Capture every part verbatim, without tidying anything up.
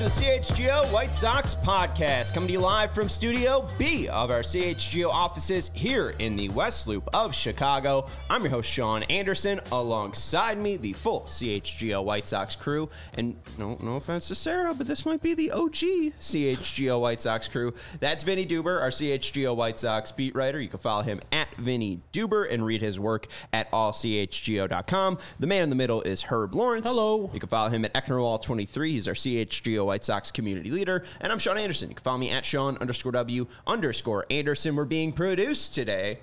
to the C H G O White Sox podcast, coming to you live from Studio B of our C H G O offices here in the West Loop of Chicago. I'm your host, Sean Anderson. Alongside me, the full C H G O White Sox crew. And no, no offense to Sarah, but this might be the O G C H G O White Sox crew. That's Vinny Duber, our C H G O White Sox beat writer. You can follow him at Vinny Duber and read his work at all c h g o dot com. The man in the middle is Herb Lawrence. Hello. You can follow him at Ecknerwall twenty-three. He's our C H G O White Sox community leader. And I'm Sean Anderson. You can follow me at Sean underscore W underscore Anderson. We're being produced today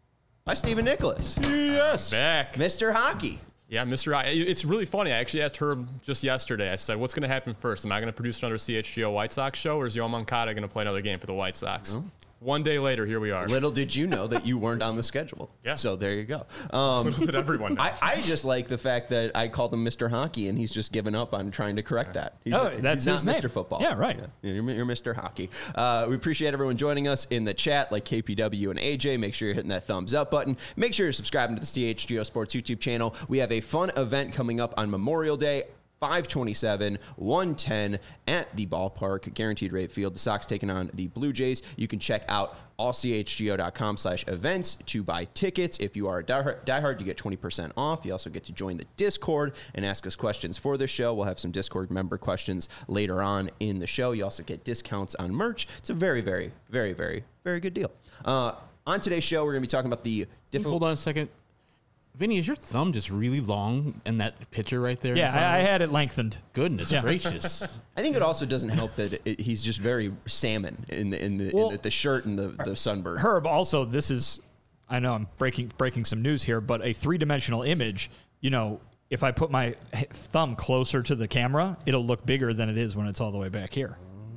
by Stephen Nicholas. Yes. Back. Mister Hockey. Yeah, Mister I. It's really funny. I actually asked Herb just yesterday. I said, what's going to happen first? Am I going to produce another C H G O White Sox show, or is Yoan Moncada going to play another game for the White Sox? Mm-hmm. One day later, here we are. Little did you know that you weren't on the schedule. Yeah. So there you go. Um, Little did everyone know. I, I just like the fact that I called him Mister Hockey, and he's just given up on trying to correct that. He's oh, not, that's he's his not name. Mister Football. Yeah, right. Yeah, you're, you're Mister Hockey. Uh, we appreciate everyone joining us in the chat, like K P W and A J. Make sure you're hitting that thumbs up button. Make sure you're subscribing to the C H G O Sports YouTube channel. We have a fun event coming up on Memorial Day. five twenty-seven, one ten at the ballpark, guaranteed rate field. The Sox taking on the Blue Jays. You can check out all c h g o dot com slash events to buy tickets. If you are a diehard, diehard, you get twenty percent off. You also get to join the Discord and ask us questions for the show. We'll have some Discord member questions later on in the show. You also get discounts on merch. It's a very, very, very, very, very good deal. Uh, on today's show, we're going to be talking about the different... Hold on a second. Vinny, is your thumb just really long in that picture right there? Yeah, I, I had it lengthened. Goodness Yeah. gracious. I think it also doesn't help that it, it, he's just very salmon in the in the, Well, in the, the shirt and the, the sunburn. Herb, also, this is, I know I'm breaking breaking some news here, but a three-dimensional image, you know, if I put my h- thumb closer to the camera, it'll look bigger than it is when it's all the way back here.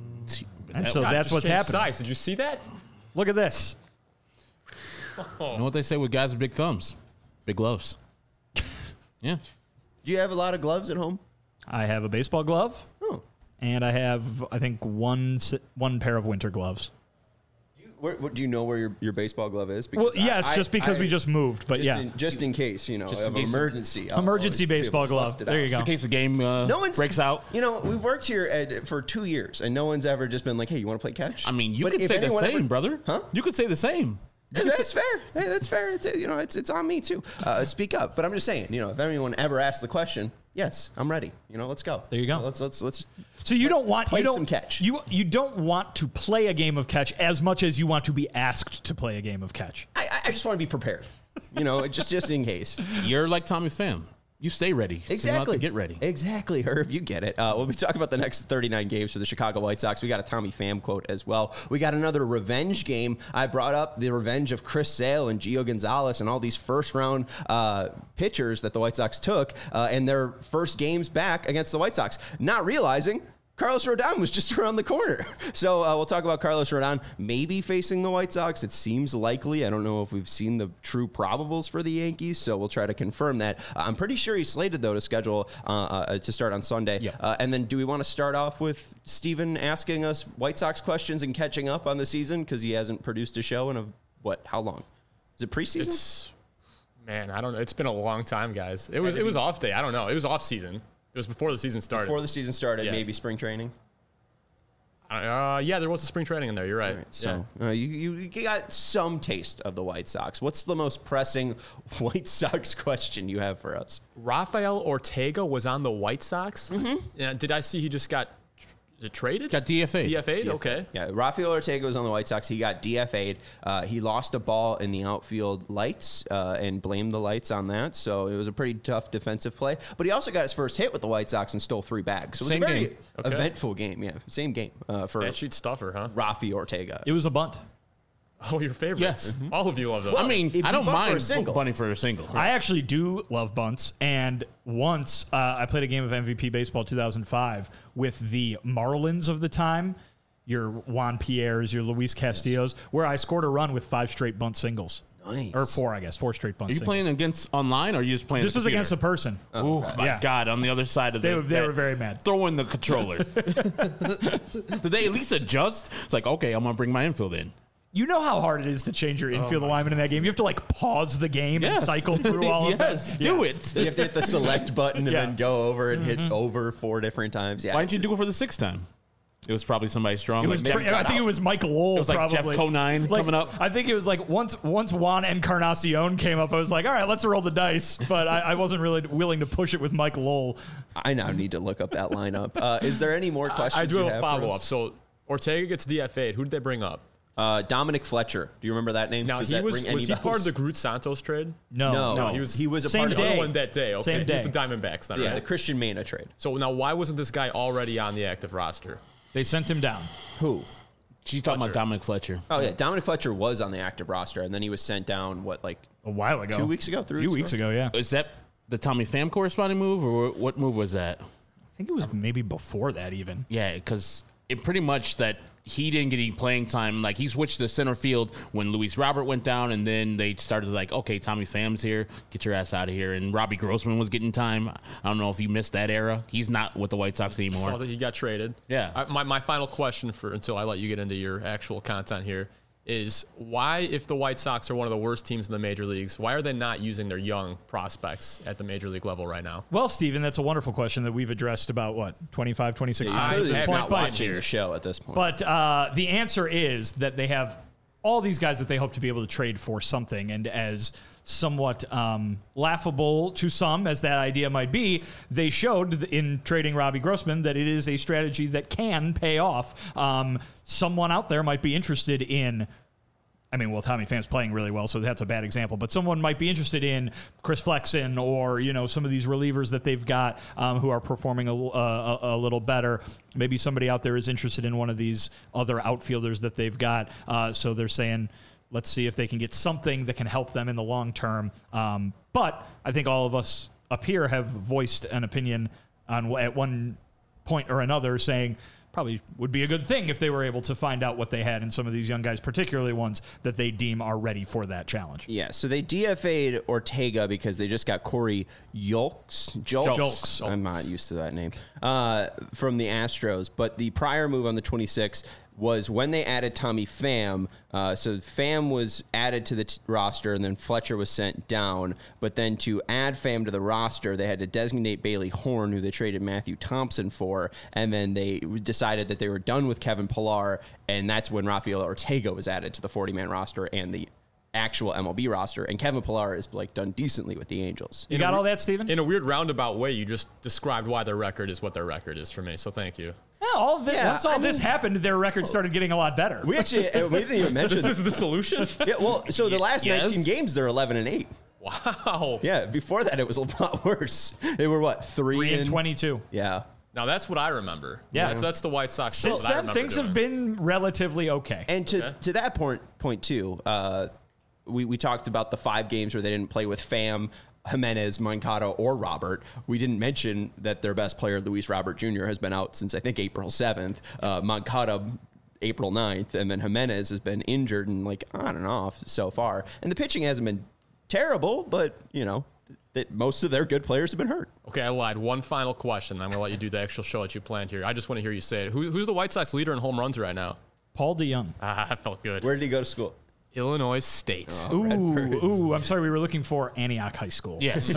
And so God, that's just what's changed happening. Size. Did you see that? Look at this. You know what they say with guys with big thumbs? Big gloves. Yeah. Do you have a lot of gloves at home? I have a baseball glove, Oh. and I have, I think, one si- one pair of winter gloves. Where, where, do you know where your, your baseball glove is? Because Well, yes, I- just because I- we just moved, but just yeah. In, just in case, you know, Just of in case- emergency. I'll Emergency always be able baseball to glove. bust it There out. you go. In case the game uh, No one's breaks out. You know, we've worked here at, for two years, and no one's ever just been like, "Hey, you want to play catch?" I mean, you But could if say the anyone same, ever- brother. Huh? You could say the same. Hey, that's fair. Hey, that's fair. It's, you know, it's it's on me too. Uh, speak up. But I'm just saying, you know, if anyone ever asks the question, yes, I'm ready. You know, let's go. There you go. Let's let's let's. So you don't want Play you don't, some catch. You you don't want to play a game of catch as much as you want to be asked to play a game of catch. I, I just want to be prepared. You know, just just in case. You're like Tommy Pham. You stay ready. So you don't have Exactly. to get ready. Exactly, Herb. You get it. Uh, we'll be talking about the next thirty-nine games for the Chicago White Sox. We got a Tommy Pham quote as well. We got another revenge game. I brought up the revenge of Chris Sale and Gio Gonzalez and all these first-round uh, pitchers that the White Sox took uh, in their first games back against the White Sox, not realizing Carlos Rodon was just around the corner. So uh, we'll talk about Carlos Rodon maybe facing the White Sox. It seems likely. I don't know if we've seen the true probables for the Yankees, so we'll try to confirm that. Uh, I'm pretty sure he's slated, though, to schedule uh, uh, to start on Sunday. Yeah. Uh, and then do we want to start off with Steven asking us White Sox questions and catching up on the season because he hasn't produced a show in a, what, how long? Is it preseason? It's, man, I don't know. It's been a long time, guys. It was it was off day. I don't know. It was off season. It was before the season started. Before the season started, Yeah. maybe spring training? Uh, yeah, there was a spring training in there. You're right. All right, so uh, you, you you got some taste of the White Sox. What's the most pressing White Sox question you have for us? yeah. Rafael Ortega was on the White Sox. Mm-hmm. Yeah, did I see he just got is it traded? Got D F A. D F A'd? Okay. Yeah, Rafael Ortega was on the White Sox. He got D F A'd. Uh, he lost a ball in the outfield lights uh, and blamed the lights on that. So it was a pretty tough defensive play. But he also got his first hit with the White Sox and stole three bags. So it was Same a very game. Okay. eventful game. Yeah, same game uh, for That sheet stuffer, huh? Rafi Ortega. It was a bunt. Oh, your favorites. Yes. All of you love those. I mean, if you I don't bunt for a mind single. bunting for a single. I actually do love bunts, and once uh, I played a game of M V P Baseball two thousand five with the Marlins of the time, your Juan Pierre's, your Luis Castillo's, where I scored a run with five straight bunt singles. Nice. Or four, I guess. Four straight bunt Are you singles. playing against online or are you just playing This the was against a computer? person. Oh, my Yeah. God, on the other side of They the... were- they that- were very mad. Throwing the controller. Did they at least adjust? It's like, okay, I'm going to bring my infield in. You know how hard it is to change your infield alignment in that game. You have to like pause the game and Yes. cycle through all of Yes, that. do Yeah. it. You have to hit the select button and Yeah. then go over and hit over four different times. Yeah. Why didn't you it's do it for the sixth time? It was probably somebody strong. It like was Jeff- pretty- I think it was Mike Lowell. It was like probably. Jeff Conine Like, coming up. I think it was like once once Juan Encarnacion came up, I was like, all right, let's roll the dice. But I, I wasn't really willing to push it with Mike Lowell. I now need to look up that lineup. Uh, is there any more questions? I do you have a for follow us? up. So Ortega gets D F A'd. Who did they bring up? Uh, Dominic Fletcher. Do you remember that name? Now Does he that was ring any was he part of bells? the Groot Santos trade? No, No, No, he was he was a Same part of the day. other one that day. Okay, Same he day. was the Diamondbacks then, yeah, right? the Christian Mena trade. So now, why wasn't this guy already on the active roster? They sent him down. Who? She's talking Fletcher. about Dominic Fletcher. Oh yeah, Dominic Fletcher was on the active roster, and then he was sent down. What, like A while ago. two weeks ago? Three A few weeks weeks ago? ago, yeah. Is that the Tommy Pham corresponding move, or what move was that? I think it was maybe before that even. Yeah, because it pretty much that he didn't get any playing time. Like, he switched to center field when Luis Robert went down, and then they started like, okay, Tommy Pham's here. Get your ass out of here. And Robbie Grossman was getting time. I don't know if you missed that era. He's not with the White Sox Saw anymore. that he got traded. Yeah. I, my my final question for until I let you get into your actual content here is why, if the White Sox are one of the worst teams in the major leagues, why are they not using their young prospects at the major league level right now? Well, Steven, that's a wonderful question that we've addressed about, what, twenty-five, twenty-six You times clearly at this just point. not But- watching your show at this point. But uh, the answer is that they have all these guys that they hope to be able to trade for something. And as somewhat um, laughable to some as that idea might be, they showed in trading Robbie Grossman that it is a strategy that can pay off. Um, someone out there might be interested in. I mean, well, Tommy Pham's playing really well, so that's a bad example. But someone might be interested in Chris Flexen or, you know, some of these relievers that they've got um, who are performing a, a, a little better. Maybe somebody out there is interested in one of these other outfielders that they've got. Uh, so they're saying, let's see if they can get something that can help them in the long term. Um, but I think all of us up here have voiced an opinion on at one point or another saying, probably would be a good thing if they were able to find out what they had in some of these young guys, particularly ones that they deem are ready for that challenge. yeah, so they D F A'd Ortega because they just got Corey Yolks. Jolks. Jolks. I'm not used to that name. Uh, from the Astros. But the prior move on the twenty-sixth was when they added Tommy Pham. Uh, so Pham was added to the t- roster, and then Fletcher was sent down. But then to add Pham to the roster, they had to designate Bailey Horn, who they traded Matthew Thompson for. And then they decided that they were done with Kevin Pillar, and that's when Rafael Ortega was added to the forty-man roster and the actual M L B roster. And Kevin Pillar is like done decently with the Angels. You got all that, Steven? In a weird roundabout way, you just described why their record is what their record is for me. So thank you. Yeah, all of it, Yeah, once all I this mean- happened, their record started getting a lot better. We actually uh, we didn't even mention. This is the solution. yeah, well, so the last Yes. nineteen games they're eleven and eight. Wow. Yeah, before that it was a lot worse. They were what three, Three and and twenty-two. Yeah. Now that's what I remember. Yeah. that's, that's the White Sox. Since that I then, remember things doing. have been relatively okay. And to, Okay. to that point, point too, uh, we, we talked about the five games where they didn't play with Pham, Jimenez, Moncada, or Robert. We didn't mention that their best player, Luis Robert Junior, has been out since, I think, April seventh. Uh, Moncada, April ninth. And then Jimenez has been injured and, like, on and off so far. And the pitching hasn't been terrible, but, you know, that most of their good players have been hurt. Okay, I lied. One final question. I'm going to let you do the actual show that you planned here. I just want to hear you say it. Who, who's the White Sox leader in home runs right now? Paul DeYoung. Ah, that felt good. Where did he go to school? Illinois State. Oh. Ooh, ooh, I'm sorry, we were looking for Antioch High School. Yes.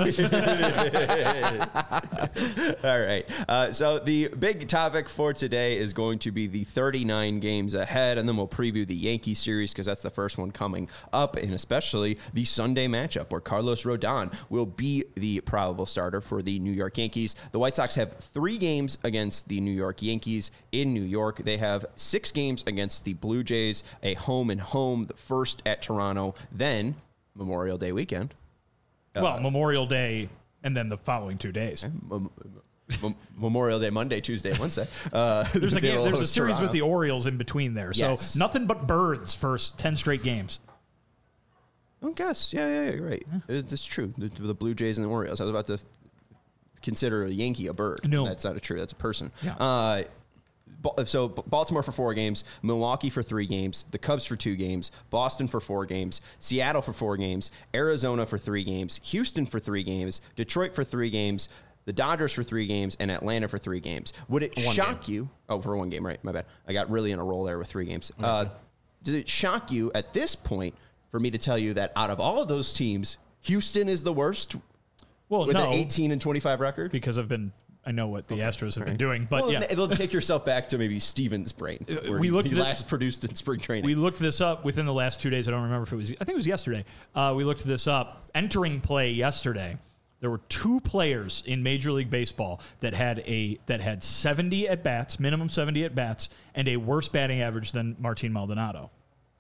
All right. Uh, so the big topic for today is going to be the thirty-nine games ahead, and then we'll preview the Yankee series because that's the first one coming up, and especially the Sunday matchup where Carlos Rodon will be the probable starter for the New York Yankees. The White Sox have three games against the New York Yankees in New York. They have six games against the Blue Jays, a home and home, the first at Toronto, then Memorial Day weekend. Well, Memorial Day and then the following two days. Mem- Mem- Memorial Day, Monday, Tuesday, Wednesday. Uh, There's a they game, will there's a host series Toronto. with the Orioles in between there. So Yes. nothing but birds for s- ten straight games. I guess. Yeah, yeah, yeah, you're right. It's, it's true. The, the Blue Jays and the Orioles. I was about to consider a Yankee a bird. No. That's not a true. That's a person. Yeah. Uh, Ba- so B- Baltimore for four games, Milwaukee for three games, the Cubs for two games, Boston for four games, Seattle for four games, Arizona for three games, Houston for three games, Detroit for three games, the Dodgers for three games, and Atlanta for three games. Would it One shock you? Oh, for one game, right? My bad. I got really in a roll there with three games. Uh, does it shock you at this point for me to tell you that out of all of those teams, Houston is the worst Well, with no, an eighteen and twenty-five record? because I've been I know what the Astros have been doing, but Well, yeah. it'll take yourself back to maybe Steven's brain, where we he, looked he at- last produced in spring training. We looked this up within the last two days. I don't remember if it was, I think it was yesterday. Uh, we looked this up. Entering play yesterday, there were two players in Major League Baseball that had a that had seventy at bats, minimum seventy at bats, and a worse batting average than Martin Maldonado.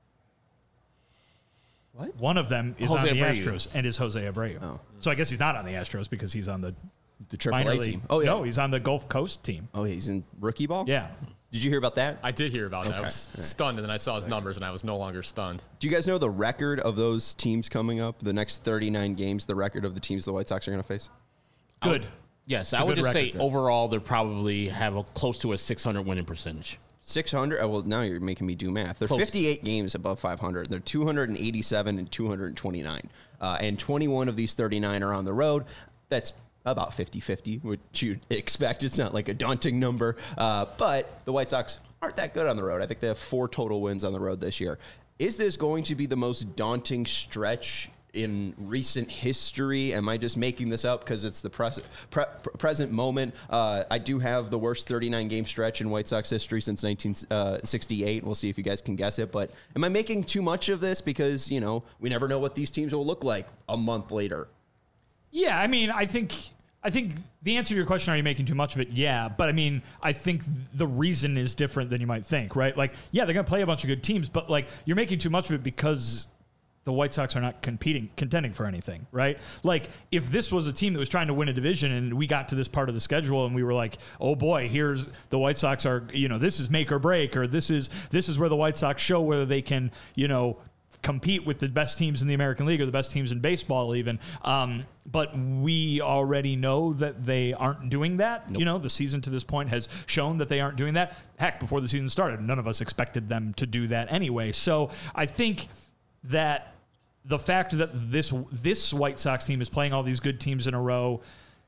What? One of them is Jose on the Abreu. Astros and is Jose Abreu. Oh. So I guess he's not on the Astros because he's on the the Triple minor A league. team. Oh, yeah. No, he's on the Gulf Coast team. Oh, yeah, he's in rookie ball? Yeah. Did you hear about that? I did hear about that. I Okay. was stunned, and then I saw his numbers, and I was no longer stunned. Do you guys know the record of those teams coming up? The next thirty-nine games, the record of the teams the White Sox are going to face? Good. Yes, a I would good just say record. overall they probably have a close to a six hundred winning percentage. six hundred? Oh, well, now you're making me do math. They're Close. fifty-eight games above five hundred. They're two hundred eighty-seven and two hundred twenty-nine. Uh, and twenty-one of these thirty-nine are on the road. That's about fifty-fifty, which you'd expect. It's not like a daunting number. Uh, but the White Sox aren't that good on the road. I think they have four total wins on the road this year. Is this going to be the most daunting stretch in recent history? Am I just making this up because it's the pres- pre- present moment? Uh, I do have the worst thirty-nine game stretch in White Sox history since nineteen sixty-eight. We'll see if you guys can guess it. But am I making too much of this because, you know, we never know what these teams will look like a month later? Yeah, I mean, I think I think the answer to your question, are you making too much of it? Yeah, but I mean, I think the reason is different than you might think, right? Like, yeah, they're going to play a bunch of good teams, but like, you're making too much of it because the White Sox are not competing, contending for anything, right? Like, if this was a team that was trying to win a division and we got to this part of the schedule and we were like, oh boy, here's the White Sox are, you know, this is make or break, or this is this is where the White Sox show whether they can, you know, compete with the best teams in the American League or the best teams in baseball even. Um, but we already know that they aren't doing that. Nope. You know, the season to this point has shown that they aren't doing that. Heck, before the season started, none of us expected them to do that anyway. So I think that the fact that this this White Sox team is playing all these good teams in a row,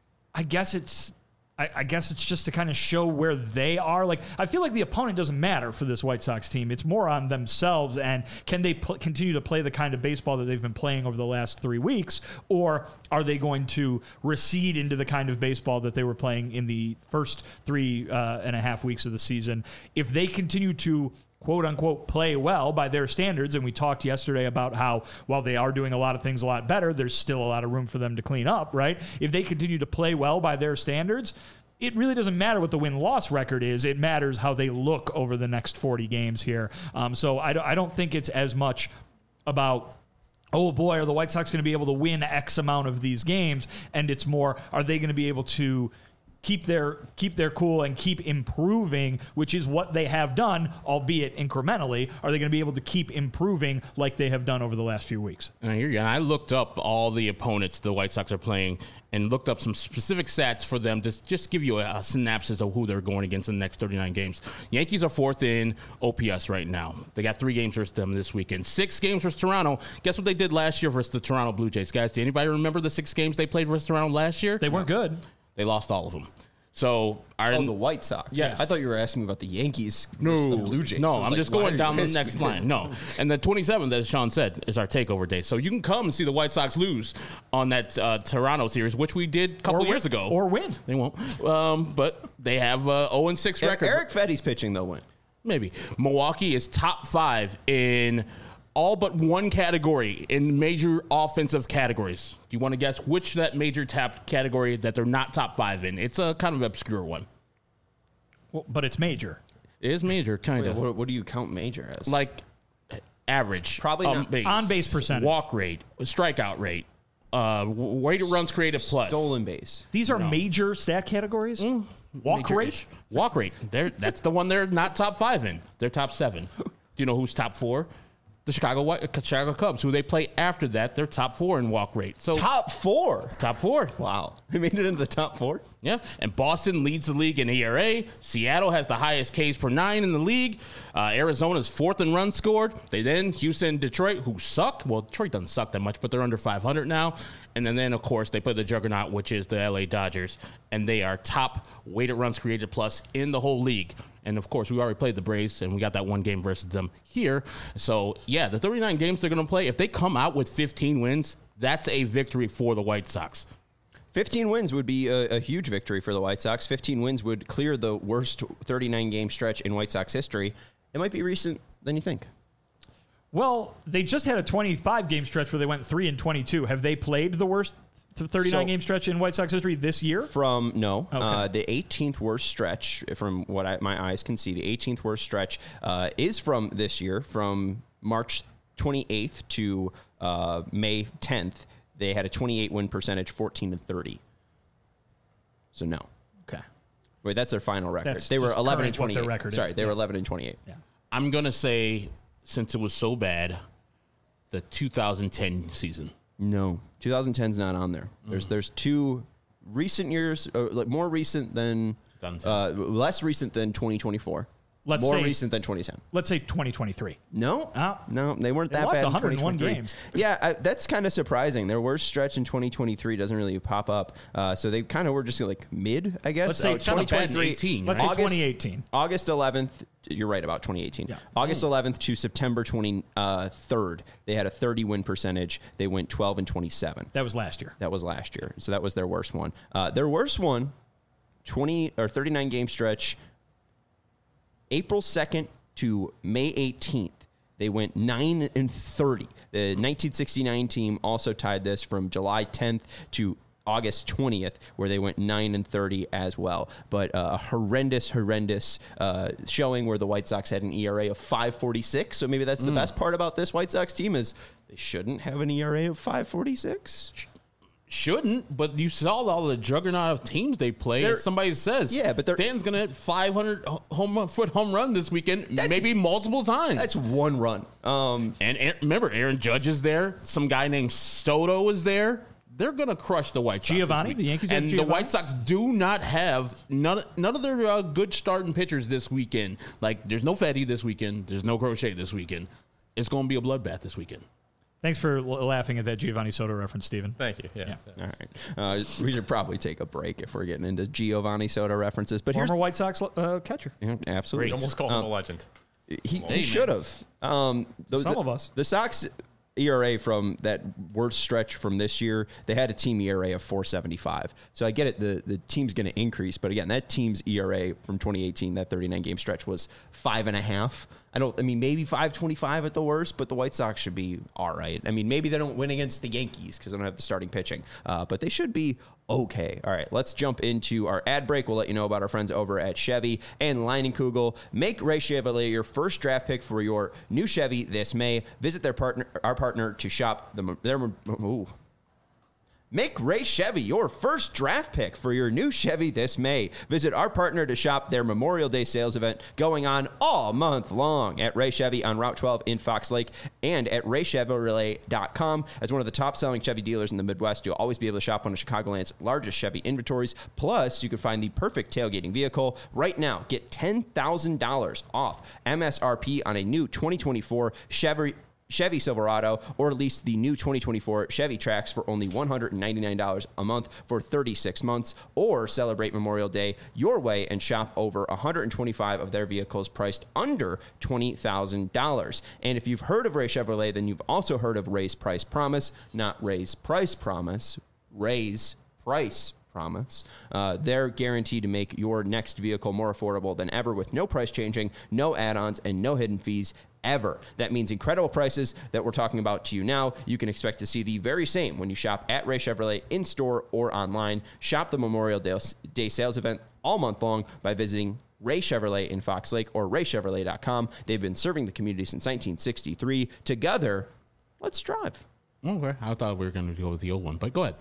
I guess it's I, I guess it's just to kind of show where they are. Like, I feel like the opponent doesn't matter for this White Sox team. It's more on themselves, and can they pl- continue to play the kind of baseball that they've been playing over the last three weeks, or are they going to recede into the kind of baseball that they were playing in the first three uh, and a half weeks of the season? If they continue to quote unquote play well by their standards, and we talked yesterday about how while they are doing a lot of things a lot better, there's still a lot of room for them to clean up, right? If they continue to play well by their standards, it really doesn't matter what the win-loss record is. It matters how they look over the next forty games here. Um, so I don't, I don't think it's as much about, oh boy, are the White Sox going to be able to win X amount of these games? And it's more, are they going to be able to keep their keep their cool and keep improving, which is what they have done, albeit incrementally. Are they going to be able to keep improving like they have done over the last few weeks? And I hear you. And I looked up all the opponents the White Sox are playing and looked up some specific stats for them to just give you a, a synopsis of who they're going against in the next thirty-nine games. Yankees are fourth in O P S right now. They got three games versus them this weekend. Six games versus Toronto. Guess what they did last year versus the Toronto Blue Jays? Guys, do anybody remember the six games they played versus Toronto last year? They weren't good. They lost all of them. So, are Oh, the White Sox. Yes. I thought you were asking me about the Yankees. No, versus the Blue Jays. I no, was I'm like, just why are going you down the asking next me? line. No, and the twenty-seventh, as Sean said, is our takeover day. So you can come and see the White Sox lose on that uh, Toronto series, which we did a couple Or years win. ago. Or win. They won't. Um, but they have uh, oh and six If record. Eric Fetty's pitching, they'll win. Maybe. Milwaukee is top five in all but one category in major offensive categories. Do you want to guess which that major tap category that they're not top five in? It's a kind of obscure one. Well, but it's major. It is major, kind Wait, of. what, what do you count major as? Like average. Probably on not. base, On base percentage. walk rate, strikeout rate, uh, weighted runs created plus. Stolen base. These are major stat categories? Walk Major rate? ish. Walk rate. They're, that's the one they're not top five in. They're top seven. Do you know who's top four? The Chicago White, Chicago Cubs, who they play after that. They're top four in walk rate. So Top four. top four. Wow. They made it into the top four? Yeah, and Boston leads the league in E R A. Seattle has the highest Ks per nine in the league. Uh, Arizona's fourth in runs scored. They then Houston, Detroit, who suck. Well, Detroit doesn't suck that much, but they're under five hundred now. And then, then of course, they play the juggernaut, which is the L A Dodgers, and they are top weighted runs created plus in the whole league. And of course, we already played the Braves, and we got that one game versus them here. So yeah, the thirty-nine games they're going to play, if they come out with fifteen wins, that's a victory for the White Sox. fifteen wins would be a, a huge victory for the White Sox. fifteen wins would clear the worst thirty-nine game stretch in White Sox history. It might be recent than you think. Well, they just had a twenty-five game stretch where they went three and twenty-two. Have they played the worst thirty-nine game stretch in White Sox history this year? From no, Okay. uh, the eighteenth worst stretch, from what I, my eyes can see, the eighteenth worst stretch uh, is from this year, from March twenty-eighth to uh, May tenth. They had a twenty-eight win percentage, fourteen and thirty. So no. Okay. Wait, that's their final record. That's they were just eleven and current what their twenty-eight. record Sorry, is. they Yeah. were eleven and twenty-eight. Yeah. I'm going to say, since it was so bad, the two thousand ten season. No, twenty ten's not on there. There's there's two recent years, uh, like more recent than, uh, less recent than twenty twenty-four. Let's more say- recent than twenty ten. Let's say twenty twenty-three. No, Oh. no, they weren't They that lost bad. in one hundred one twenty twenty-three. games. Yeah, I, that's kind of surprising. Their worst stretch in twenty twenty-three doesn't really pop up. Uh, so they kind of were just like mid, I guess. Let's say Uh, it's not a bad twenty twenty-three. eighteen, Let's right? say August- twenty eighteen. August eleventh, you're right about twenty eighteen. Yeah. August eleventh to September twenty-third, they had a thirty win percentage. They went twelve and twenty-seven. That was last year. That was last year. So that was their worst one. Uh, their worst one, twenty or thirty-nine game stretch, April second to May eighteenth. They went nine and thirty. The nineteen sixty-nine team also tied this from July tenth to August twentieth, where they went nine and thirty as well. But uh, a horrendous, horrendous uh, showing where the White Sox had an E R A of five forty-six. So maybe that's the best part about this White Sox team is they shouldn't have an E R A of five forty-six. Shouldn't, but you saw all the juggernaut of teams they play. They're- As somebody says, Yeah, but they're- Stanton's going to hit five hundred home foot home run this weekend, maybe multiple times. That's one run. Um, And Aaron, remember, Aaron Judge is there. Some guy named Soto is there. They're going to crush the White Sox. Giovanni? this week. The Yankees have and the Giovanni? White Sox do not have none. None of their uh, good starting pitchers this weekend. Like, there's no Fetty this weekend. There's no Crochet this weekend. It's going to be a bloodbath this weekend. Thanks for l- laughing at that Giovanni Soto reference, Stephen. Thank you. Yeah. All right. Uh, we should probably take a break if we're getting into Giovanni Soto references. But here's Former White Sox uh, catcher. yeah, absolutely. You almost called him a legend. He, Hey, he man. should have. Um, the, Some the- of us. The Sox E R A from that worst stretch from this year, they had a team E R A of four seventy-five. So I get it. The, the team's going to increase. But again, that team's E R A from twenty eighteen, that thirty-nine game stretch was five and a half. I don't, I mean, maybe five twenty-five at the worst, but the White Sox should be all right. I mean, maybe they don't win against the Yankees because they don't have the starting pitching, uh, but they should be okay. All right, let's jump into our ad break. We'll let you know about our friends over at Chevy and Leinenkugel. Make Ray Chevrolet your first draft pick for your new Chevy this May. Visit their partner, our partner, to shop the, their, ooh. Make Ray Chevy your first draft pick for your new Chevy this May. Visit our partner to shop their Memorial Day sales event going on all month long at Ray Chevy on Route twelve in Fox Lake and at ray chevrolet dot com. As one of the top-selling Chevy dealers in the Midwest, you'll always be able to shop one of Chicagoland's largest Chevy inventories. Plus, you can find the perfect tailgating vehicle. Right now, get ten thousand dollars off M S R P on a new twenty twenty-four Chevy Chevy Silverado, or lease the new twenty twenty-four Chevy Trax for only one hundred ninety-nine dollars a month for thirty-six months, or celebrate Memorial Day your way and shop over one hundred twenty-five of their vehicles priced under twenty thousand dollars. And if you've heard of Ray Chevrolet, then you've also heard of Ray's Price Promise, not Ray's Price Promise, Ray's Price Promise. Uh, they're guaranteed to make your next vehicle more affordable than ever with no price changing, no add-ons, and no hidden fees ever. That means incredible prices that we're talking about to you now. You can expect to see the very same when you shop at Ray Chevrolet in-store or online. Shop the Memorial Day sales event all month long by visiting Ray Chevrolet in Fox Lake or ray chevrolet dot com. They've been serving the community since nineteen sixty-three. Together, let's drive. Okay, I thought we were going to go with the old one, but go ahead.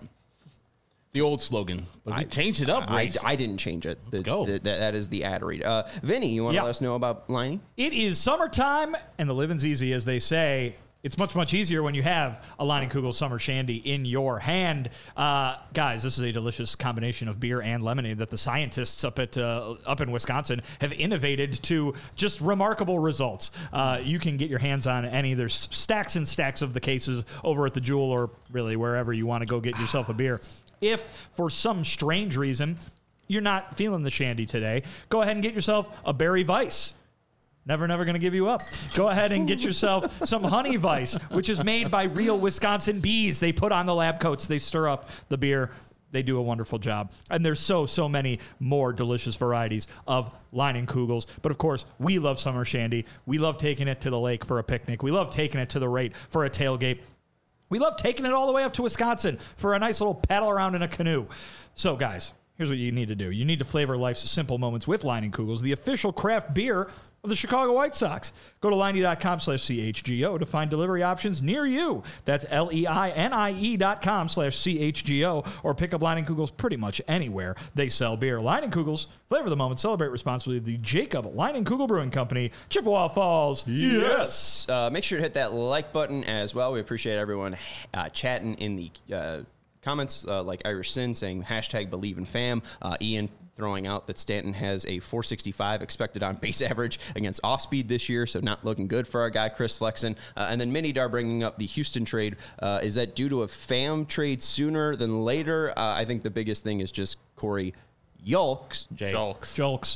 The old slogan, but we changed it up. I, Grace. I didn't change it. Let's The- go. the- that- that is the ad read. Uh, Vinny, you want to Yeah. let us know about Liney? It is summertime, and the living's easy, as they say. It's much, much easier when you have a Leinenkugel Summer Shandy in your hand. Uh, guys, this is a delicious combination of beer and lemonade that the scientists up at uh, up in Wisconsin have innovated to just remarkable results. Uh, you can get your hands on any. There's stacks and stacks of the cases over at the Jewel or really wherever you want to go get yourself a beer. If, for some strange reason, you're not feeling the shandy today, go ahead and get yourself a Berry Weiss. Never, never going to give you up. Go ahead and get yourself some Honey Weiss, which is made by real Wisconsin bees. They put on the lab coats. They stir up the beer. they do a wonderful job. And there's so, so many more delicious varieties of Leinenkugels. But of course, we love summer shandy. We love taking it to the lake for a picnic. We love taking it to the rate for a tailgate. We love taking it all the way up to Wisconsin for a nice little paddle around in a canoe. So guys, here's what you need to do. You need to flavor life's simple moments with Leinenkugels, the official craft beer of the Chicago White Sox. Go to Leine.com slash CHGO to find delivery options near you. That's L-E-I-N-I-E dot com slash C-H-G-O, or pick up Leinenkugels pretty much anywhere they sell beer. Leinenkugels, flavor the moment, celebrate responsibly. The Jacob Leinenkugel Brewing Company, Chippewa Falls. Yes. Uh, make sure to hit that like button as well. We appreciate everyone uh, chatting in the uh, comments, uh, like Irish Sin saying hashtag believe in fam. Uh, Ian throwing out that Stanton has a four sixty-five expected on base average against off speed this year, so not looking good for our guy Chris Flexen. Uh, and then Minidar bringing up the Houston trade. Uh, is that due to a Pham trade sooner than later? Uh, I think the biggest thing is just Corey Julks. Julks. Julks.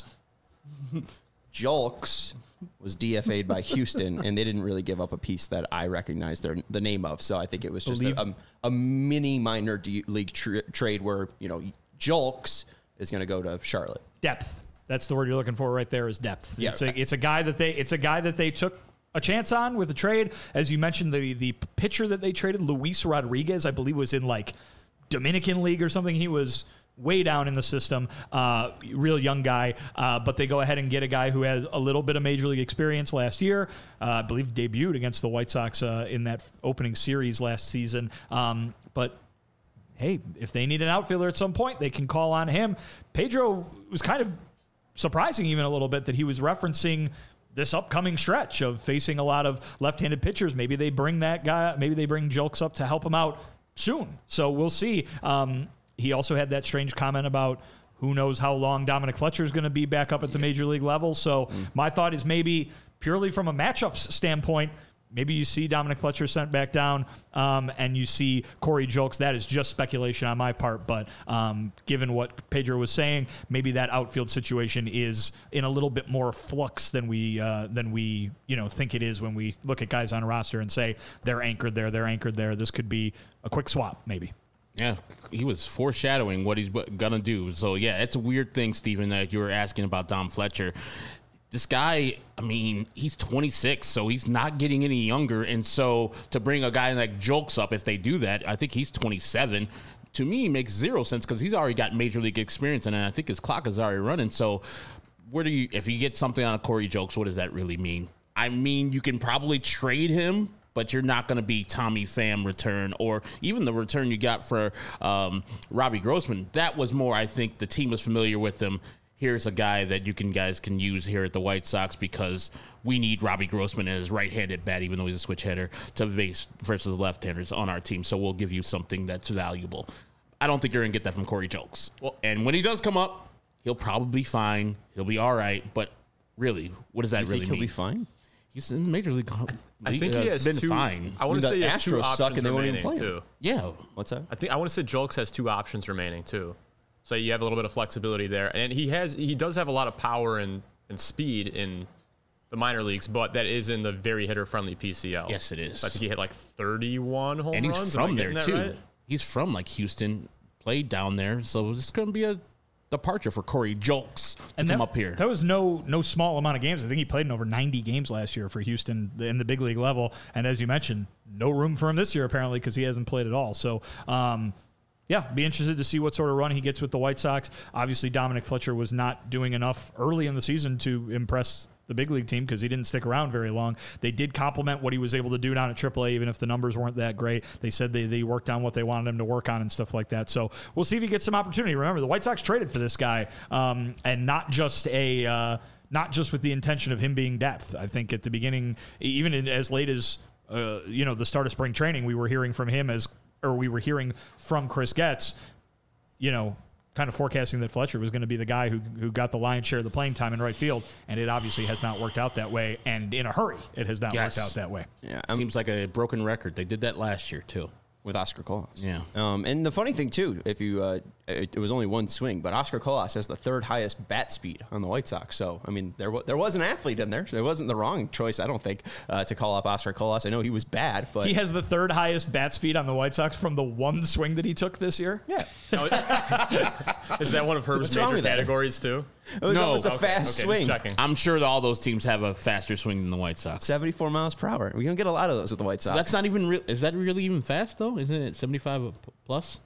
Julks was D F A'd by Houston, and they didn't really give up a piece that I recognize their, the name of. So I think it was just a, a, a mini minor D- league tra- trade where, you know, Julks is going to go to Charlotte. Depth. That's the word you're looking for right there is depth. Yeah. It's a, it's a guy that they it's a guy that they took a chance on with the trade. As you mentioned, the the pitcher that they traded, Luis Rodriguez, I believe was in like Dominican League or something. He was way down in the system, uh, real young guy, uh, but they go ahead and get a guy who has a little bit of major league experience last year. Uh, I believe debuted against the White Sox uh, in that opening series last season. Um, but hey, if they need an outfielder at some point, they can call on him. Pedro was kind of surprising even a little bit that he was referencing this upcoming stretch of facing a lot of left-handed pitchers. Maybe they bring that guy, maybe they bring Julks up to help him out soon. So we'll see. Um, he also had that strange comment about who knows how long Dominic Fletcher is going to be back up at the major league level. So mm. my thought is maybe purely from a matchups standpoint, maybe you see Dominic Fletcher sent back down um, and you see Corey Julks. That is just speculation on my part. But um, given what Pedro was saying, maybe that outfield situation is in a little bit more flux than we uh, than we you know think it is when we look at guys on a roster and say they're anchored there, they're anchored there. This could be a quick swap, maybe. Yeah, he was foreshadowing what he's going to do. So, yeah, it's a weird thing, Stephen, that you were asking about Dom Fletcher. This guy, I mean, he's twenty-six, so he's not getting any younger. And so to bring a guy like Julks up, if they do that, I think he's twenty-seven. To me, makes zero sense because he's already got major league experience, and I think his clock is already running. So where do you, if you get something on a Corey Julks, what does that really mean? I mean, you can probably trade him, but you're not going to be Tommy Pham return or even the return you got for um, Robbie Grossman. That was more, I think, the team was familiar with him. Here's a guy that you can guys can use here at the White Sox because we need Robbie Grossman as right-handed bat, even though he's a switch hitter, to base versus left-handers on our team. So we'll give you something that's valuable. I don't think you're going to get that from Corey Julks. Well, and when he does come up, he'll probably be fine. He'll be all right. But really, what does that you really think mean? He'll be fine. He's in Major League. I think he has been two, fine. I want to I mean, say the he has two Astros options suck and they won't even remaining play him. too. Yeah. What's that? I think I want to say Julks has two options remaining too. So you have a little bit of flexibility there, and he has he does have a lot of power and, and speed in the minor leagues, but that is in the very hitter friendly P C L. Yes, it is. So I think he hit like thirty-one home And he's runs. from Am I there getting too. that right? He's from like Houston, played down there, so it's going to be a departure for Corey Julks to And come that, up here. That was no no small amount of games. I think he played in over ninety games last year for Houston in the big league level. And as you mentioned, no room for him this year apparently because he hasn't played at all. So, um, yeah, be interested to see what sort of run he gets with the White Sox. Obviously, Dominic Fletcher was not doing enough early in the season to impress the big league team because he didn't stick around very long. They did compliment what he was able to do down at triple A, even if the numbers weren't that great. They said they, they worked on what they wanted him to work on and stuff like that. So we'll see if he gets some opportunity. Remember, the White Sox traded for this guy, um, and not just a uh, not just with the intention of him being depth. I think at the beginning, even in, as late as uh, you know the start of spring training, we were hearing from him as, or we were hearing from Chris Getz, you know, kind of forecasting that Fletcher was going to be the guy who who got the lion's share of the playing time in right field, and it obviously has not worked out that way, and in a hurry, it has not Yes. worked out that way. Yeah, I'm, Seems like a broken record. They did that last year too. with Oscar Colas. Yeah. Um, and the funny thing too, if you uh, it, it was only one swing, but Oscar Colas has the third highest bat speed on the White Sox. So I mean, there w- there was an athlete in there. So it wasn't the wrong choice, I don't think, uh, to call up Oscar Colas. I know he was bad, but He has the third highest bat speed on the White Sox from the one swing that he took this year. yeah, Oh, is that one of Herb's What's wrong major with that? categories too? it was No. almost a Okay, fast Okay, just swing. checking. I'm sure that all those teams have a faster swing than the White Sox. seventy-four miles per hour. We're gonna get a lot of those with the White Sox. So that's not even real. Is that really even fast though? Isn't it seventy-five plus?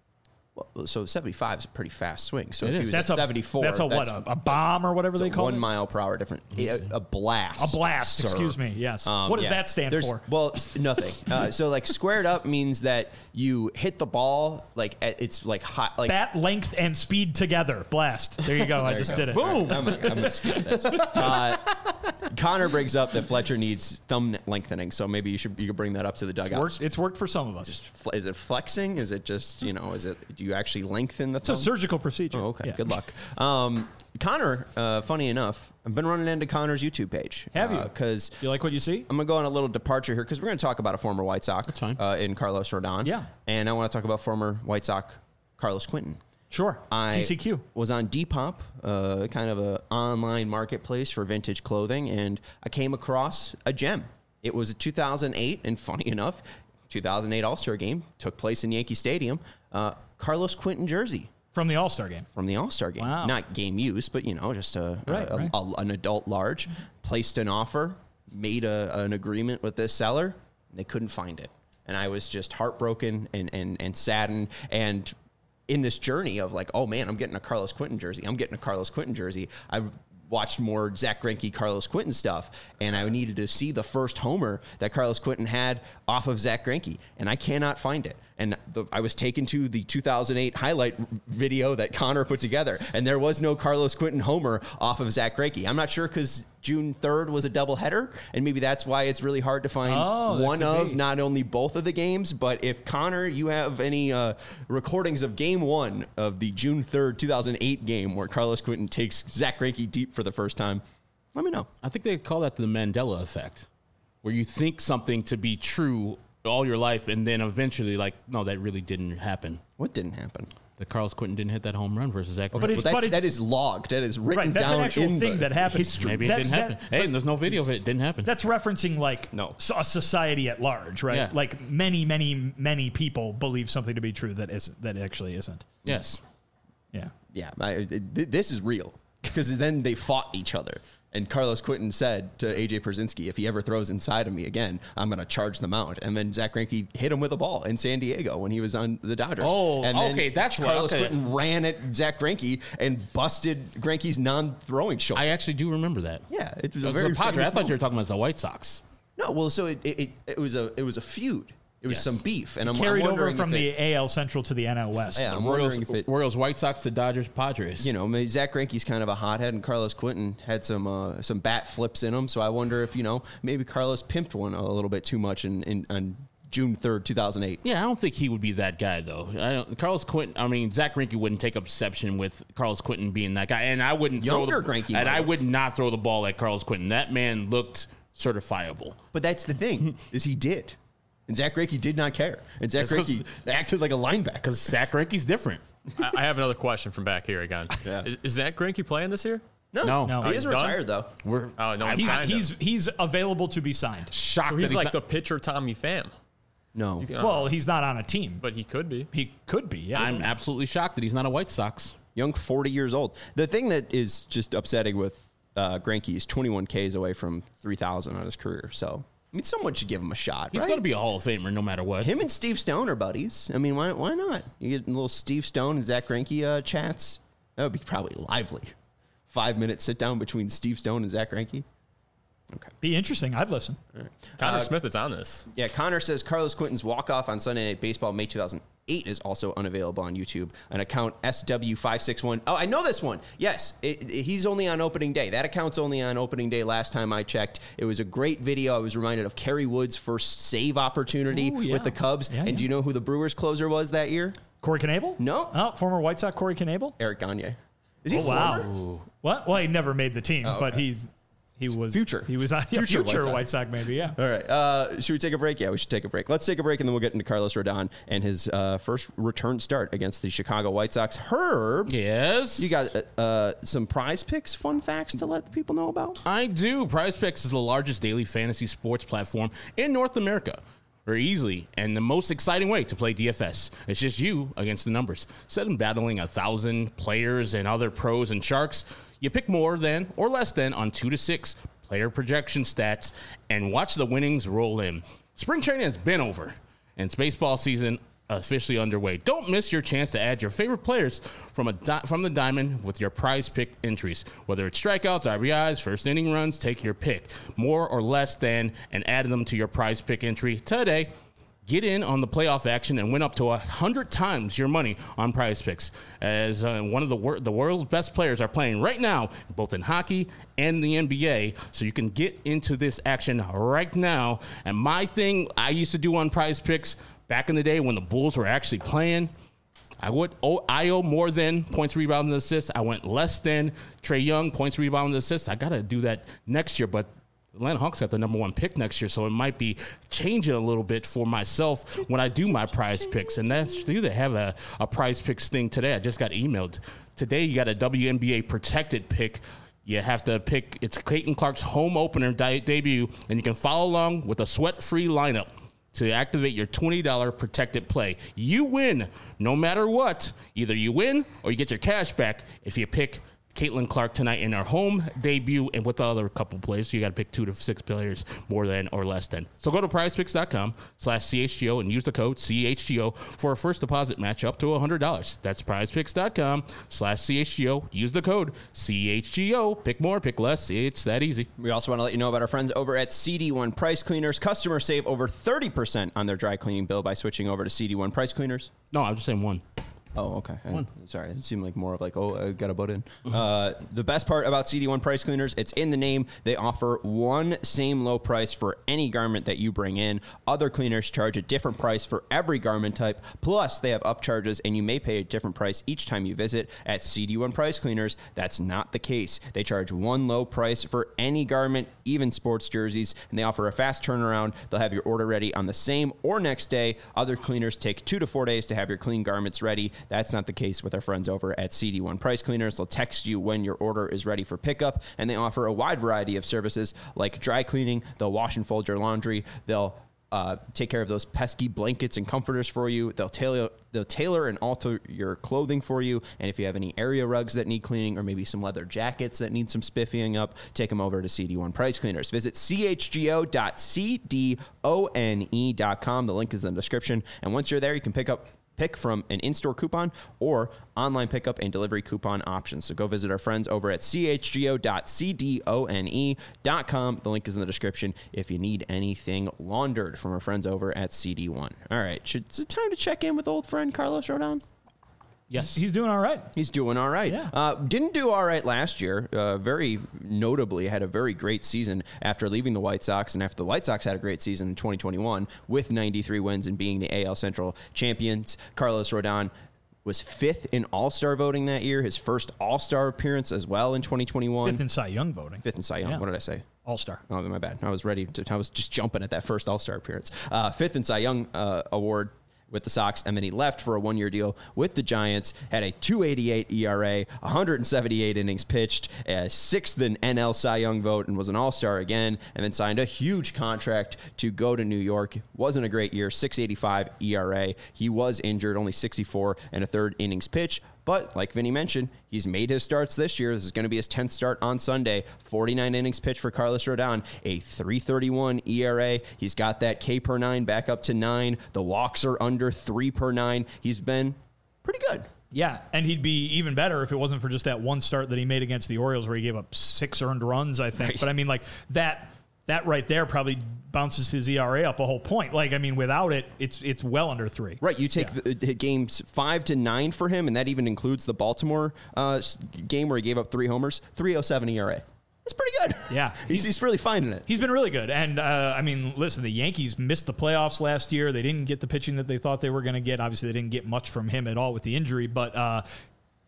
Well, so seventy-five is a pretty fast swing. So It if is. he was That's at a seventy-four, That's a what? A, a bomb or whatever it's they a call one it. mile per hour different. A, a blast. A blast. sir. Excuse me. Yes. Um, what does yeah. that stand There's- for? Well, s- nothing. Uh, so like squared up means that you hit the ball like at, it's like hot, like Bat length and speed together. Blast. There you go. I There you just go. did it. Boom. I'm, I'm gonna skip this. Uh, Connor brings up that Fletcher needs thumb lengthening, so maybe you should you could bring that up to the It's dugout. worked, it's worked for some of us. Just fl- is it flexing? Is it just you know? Is it do you actually lengthen the It's a thumb? surgical procedure. Oh, okay. Yeah. Good luck. Um, Connor, uh, funny enough, I've been running into Connor's YouTube page. Have you? Because You like what you see? I'm going to go on a little departure here because we're going to talk about a former White Sox. That's fine. Uh, in Carlos Rodon. Yeah. And I want to talk about former White Sox Carlos Quentin. Sure. I T C Q. was on Depop, uh, kind of a online marketplace for vintage clothing, and I came across a gem. It was a two thousand eight, and funny enough, two thousand eight All-Star game took place in Yankee Stadium. Uh, Carlos Quentin jersey From the All Star game. from the All-Star game. Wow. Not game use, but, you know, just a, Right, a- right. a- an adult large. Placed an offer, made a, an agreement with this seller. And they couldn't find it. And I was just heartbroken and, and, and saddened. And in this journey of like, oh, man, I'm getting a Carlos Quentin jersey. I'm getting a Carlos Quentin jersey. I watched more Zach Greinke, Carlos Quentin stuff, and I needed to see the first homer that Carlos Quentin had off of Zach Greinke, and I cannot find it. And the, I was taken to the two thousand eight highlight video that Connor put together, and there was no Carlos Quentin homer off of Zach Greinke. I'm not sure because June third was a doubleheader, and maybe that's why it's really hard to find Oh, that one could of, be. not only both of the games. But if Connor, you have any uh, recordings of game one of the June third, two thousand eight game where Carlos Quentin takes Zach Greinke deep for the first time, let me know. I think they call that the Mandela effect, where you think something to be true all your life, and then eventually, like, no, that really didn't happen. What didn't happen? That Carlos Quentin didn't hit that home run versus Zach Greinke. But it's- Well, that's, it's- that is logged. That is written Right. That's down an actual in thing the that happened. history. Maybe it That's- didn't happen. that- Hey, and there's no video of it. It didn't happen. That's referencing like No. s- a society at large, right? Yeah. Like many, many, many people believe something to be true that isn't, that actually isn't. yes. Yeah. Yeah, I, it, th- this is real because then they fought each other. And Carlos Quentin said to A J Pierzynski, if he ever throws inside of me again, I'm going to charge the mount. And then Zach Greinke hit him with a ball in San Diego when he was on the Dodgers. Oh, and then okay, that's why- Carlos okay. Quentin ran at Zach Greinke and busted Greinke's non-throwing shoulder. I actually do remember that. yeah, it was It a was very the Padre. I famous thought you were moment. talking about the White Sox. No, well, so it, it, it was a it was a feud. It was Yes. some beef, and I'm, I'm Carried over wondering from if the it, A L Central to the N L West. Yeah, I'm Royals, wondering if it Royals, White Sox to Dodgers, Padres. you know, maybe Zach Greinke's kind of a hothead, and Carlos Quentin had some uh, some bat flips in him. So I wonder if you know maybe Carlos pimped one a little bit too much in, in on June third, two thousand eight. Yeah, I don't think he would be that guy though. I don't, Carlos Quentin. I mean, Zach Greinke wouldn't take exception with Carlos Quentin being that guy, and I wouldn't Younger throw the, Greinke and might I have. would not throw the ball at Carlos Quentin. That man looked certifiable. But that's the thing is he did, and Zach Greinke did not care, and Zach That's 'cause- Greinke acted like a linebacker. Because Zach Greinke's different. I, I have another question from back here again. Yeah. Is, is Zach Greinke playing this year? No, No. No. he He's is done? retired though. We're Oh no, He's, signed him. he's, he's available to be signed. shocked. so that he's like not- the pitcher Tommy Pham, No, Uh, Well, he's not on a team, but he could be. he could be. Yeah. I'm absolutely shocked that he's not a White Sox. young, forty years old. The thing that is just upsetting with uh, Greinke is twenty-one Ks away from three thousand on his career. So I mean, someone should give him a shot. He's right? going to be a Hall of Famer no matter what. Him and Steve Stone are buddies. I mean, why why not? You get a little Steve Stone and Zach Greinke uh, chats. That would be probably lively. Five minute sit down between Steve Stone and Zach Greinke. Okay. Be interesting. I'd listen. Connor Uh, Smith is on this. Yeah, Connor says Carlos Quentin's walk-off on Sunday Night Baseball May two thousand eight is also unavailable on YouTube. An account S W five six one. Oh, I know this one. Yes, it, it- he's only on opening day. That account's only on opening day last time I checked. It was a great video. I was reminded of Kerry Wood's first save opportunity Ooh, yeah. with the Cubs. Yeah, and yeah. do you know who the Brewers closer was that year? Corey Knebel? No. Oh, former White Sox Corey Knebel? Eric Gagne. Is he Oh, wow. former? What? Well, he never made the team, Oh, but okay. he's He was Future. He was on yeah, Future future, White White Sox. Sox, maybe. Yeah. All right. Uh, should we take a break? Yeah, we should take a break. Let's take a break, and then we'll get into Carlos Rodon and his uh, first return start against the Chicago White Sox. Herb, Yes. you got uh, uh, some Prize Picks fun facts to let the people know about? I do. Prize Picks is the largest daily fantasy sports platform in North America. Very easily and the most exciting way to play D F S. It's just you against the numbers. Instead of battling a thousand players and other pros and sharks, you pick more than or less than on two to six player projection stats and watch the winnings roll in. Spring training has been over and it's baseball season officially underway. Don't miss your chance to add your favorite players from a di- from the diamond with your Prize Pick entries. Whether it's strikeouts, R B Is, first inning runs, take your pick. More or less than, and add them to your Prize Pick entry today. Get in on the playoff action and win up to one hundred times your money on Prize Picks. As uh, one of the, wor- the world's best players are playing right now, both in hockey and the N B A. So you can get into this action right now. And my thing I used to do on Prize Picks back in the day when the Bulls were actually playing, I would oh, I owe more than points, rebounds, and assists. I went less than Trae Young, points, rebounds, and assists. I got to do that next year, but Atlanta Hawks got the number one pick next year, so it might be changing a little bit for myself when I do my Prize Picks. And that's they have a, a Prize Picks thing today. I just got emailed. Today you got a W N B A protected pick. You have to pick, it's Caitlin Clark's home opener de- debut, and you can follow along with a sweat-free lineup to activate your twenty dollars protected play. You win no matter what. Either you win or you get your cash back if you pick Caitlin Clark tonight in her home debut, and with the other couple players, so you got to pick two to six players more than or less than. So go to prizepicks.com slash CHGO and use the code C H G O for a first deposit match up to one hundred dollars. That's prizepicks.com slash CHGO. Use the code C H G O. Pick more, pick less. It's that easy. We also want to let you know about our friends over at C D one Price Cleaners. Customers save over thirty percent on their dry cleaning bill by switching over to C D one Price Cleaners. No, I'm just saying one. Oh, okay. I, sorry. It seemed like more of like, oh, I got to butt in. Uh, the best part about C D one Price Cleaners, it's in the name. They offer one same low price for any garment that you bring in. Other cleaners charge a different price for every garment type. Plus, they have upcharges, and you may pay a different price each time you visit. At C D one Price Cleaners, that's not the case. They charge one low price for any garment, even sports jerseys, and they offer a fast turnaround. They'll have your order ready on the same or next day. Other cleaners take two to four days to have your clean garments ready. That's not the case with our friends over at C D one Price Cleaners. They'll text you when your order is ready for pickup, and they offer a wide variety of services like dry cleaning. They'll wash and fold your laundry. They'll uh, take care of those pesky blankets and comforters for you. They'll tailor, they'll tailor and alter your clothing for you. And if you have any area rugs that need cleaning, or maybe some leather jackets that need some spiffying up, take them over to C D one Price Cleaners. Visit C H G O dot C D O N E dot com. The link is in the description. And once you're there, you can pick up Pick from an in-store coupon or online pickup and delivery coupon options. So go visit our friends over at C H G O dot C D O N E dot com. The link is in the description if you need anything laundered from our friends over at C D one. All right. Should, is it time to check in with old friend Carlos Rodon? Yes. He's doing all right. He's doing all right. Yeah. Uh, didn't do all right last year. Uh, very notably had a very great season after leaving the White Sox, and after the White Sox had a great season in twenty twenty-one with ninety-three wins and being the A L Central champions. Carlos Rodon was fifth in All-Star voting that year, his first All-Star appearance as well in twenty twenty-one. Fifth in Cy Young voting. Fifth in Cy Young. Yeah. What did I say? All-Star. Oh, my bad. I was ready to, I was just jumping at that first All-Star appearance. Uh, fifth in Cy Young uh, award with the Sox, and then he left for a one-year deal with the Giants, had a two eighty-eight E R A, one hundred seventy-eight innings pitched, a sixth in N L Cy Young vote, and was an All-Star again, and then signed a huge contract to go to New York. Wasn't a great year, six eighty-five E R A. He was injured, only sixty-four and a third innings pitched. But like Vinny mentioned, he's made his starts this year. This is going to be his tenth start on Sunday. forty-nine innings pitched for Carlos Rodon, a three thirty-one E R A. He's got that K per nine back up to nine. The walks are under three per nine. He's been pretty good. Yeah, and he'd be even better if it wasn't for just that one start that he made against the Orioles where he gave up six earned runs, I think. Right. But I mean, like that that right there probably bounces his E R A up a whole point. Like, I mean, without it, it's it's well under three. Right. You take Yeah. the, the games five to nine for him, and that even includes the Baltimore uh, game where he gave up three homers, three oh seven E R A. That's pretty good. Yeah. He's, he's really finding it. He's been really good. And, uh, I mean, listen, the Yankees missed the playoffs last year. They didn't get the pitching that they thought they were going to get. Obviously, they didn't get much from him at all with the injury. But uh,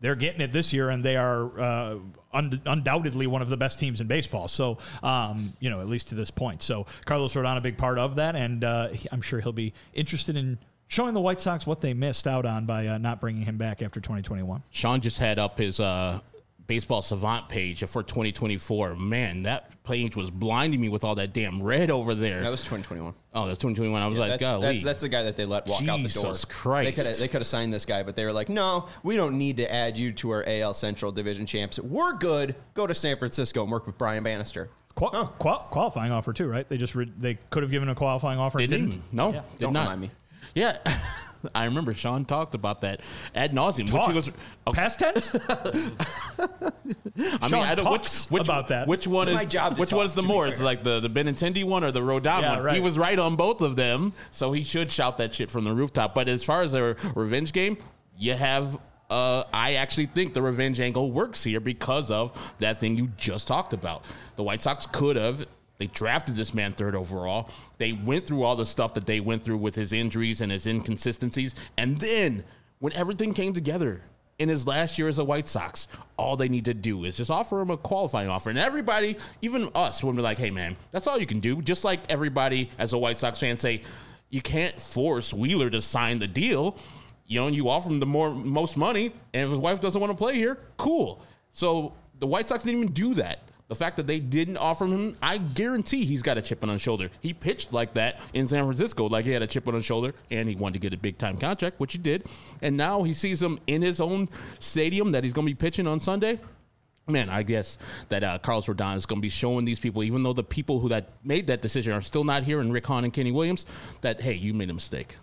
they're getting it this year, and they are uh, un- undoubtedly one of the best teams in baseball. So, um, you know, at least to this point. So Carlos Rodon, a big part of that, and uh, he, I'm sure he'll be interested in showing the White Sox what they missed out on by uh, not bringing him back after twenty twenty-one. Sean just had up his uh, Baseball Savant page for twenty twenty-four. Man, that page was blinding me with all that damn red over there. That was twenty twenty-one. Oh, that's twenty twenty-one. I was Yeah, like, that's, golly. that's that's the guy that they let walk out the door. Jesus Christ. They could have they could have signed this guy, but they were like, no, we don't need to add you to our A L Central Division champs. We're good. Go to San Francisco and work with Brian Bannister. Qual- oh. qual- qualifying offer too, right? They just re- they could have given a qualifying offer. They and didn't. didn't. No, Yeah. did Don't not. remind me. Yeah. I remember Sean talked about that ad nauseum. Talk. Which was, okay. Past tense? I Sean mean, I don't talks which, which about that. Which one It's is my job to which talk, one is the to be more? fair. It's like the the Benintendi one or the Rodon Yeah, one. right. He was right on both of them, so he should shout that shit from the rooftop. But as far as a revenge game, you have. Uh, I actually think the revenge angle works here because of that thing you just talked about. The White Sox could have. They drafted this man third overall. They went through all the stuff that they went through with his injuries and his inconsistencies. And then when everything came together in his last year as a White Sox, all they need to do is just offer him a qualifying offer. And everybody, even us, when we're like, hey, man, that's all you can do. Just like everybody as a White Sox fan say, you can't force Wheeler to sign the deal. You know, and you offer him the more most money, and if his wife doesn't want to play here, cool. So the White Sox didn't even do that. The fact that they didn't offer him, I guarantee he's got a chip on his shoulder. He pitched like that in San Francisco, like he had a chip on his shoulder, and he wanted to get a big-time contract, which he did. And now he sees him in his own stadium that he's going to be pitching on Sunday. Man, I guess that uh, Carlos Rodon is going to be showing these people, even though the people who that made that decision are still not here, and Rick Hahn and Kenny Williams, that, hey, you made a mistake.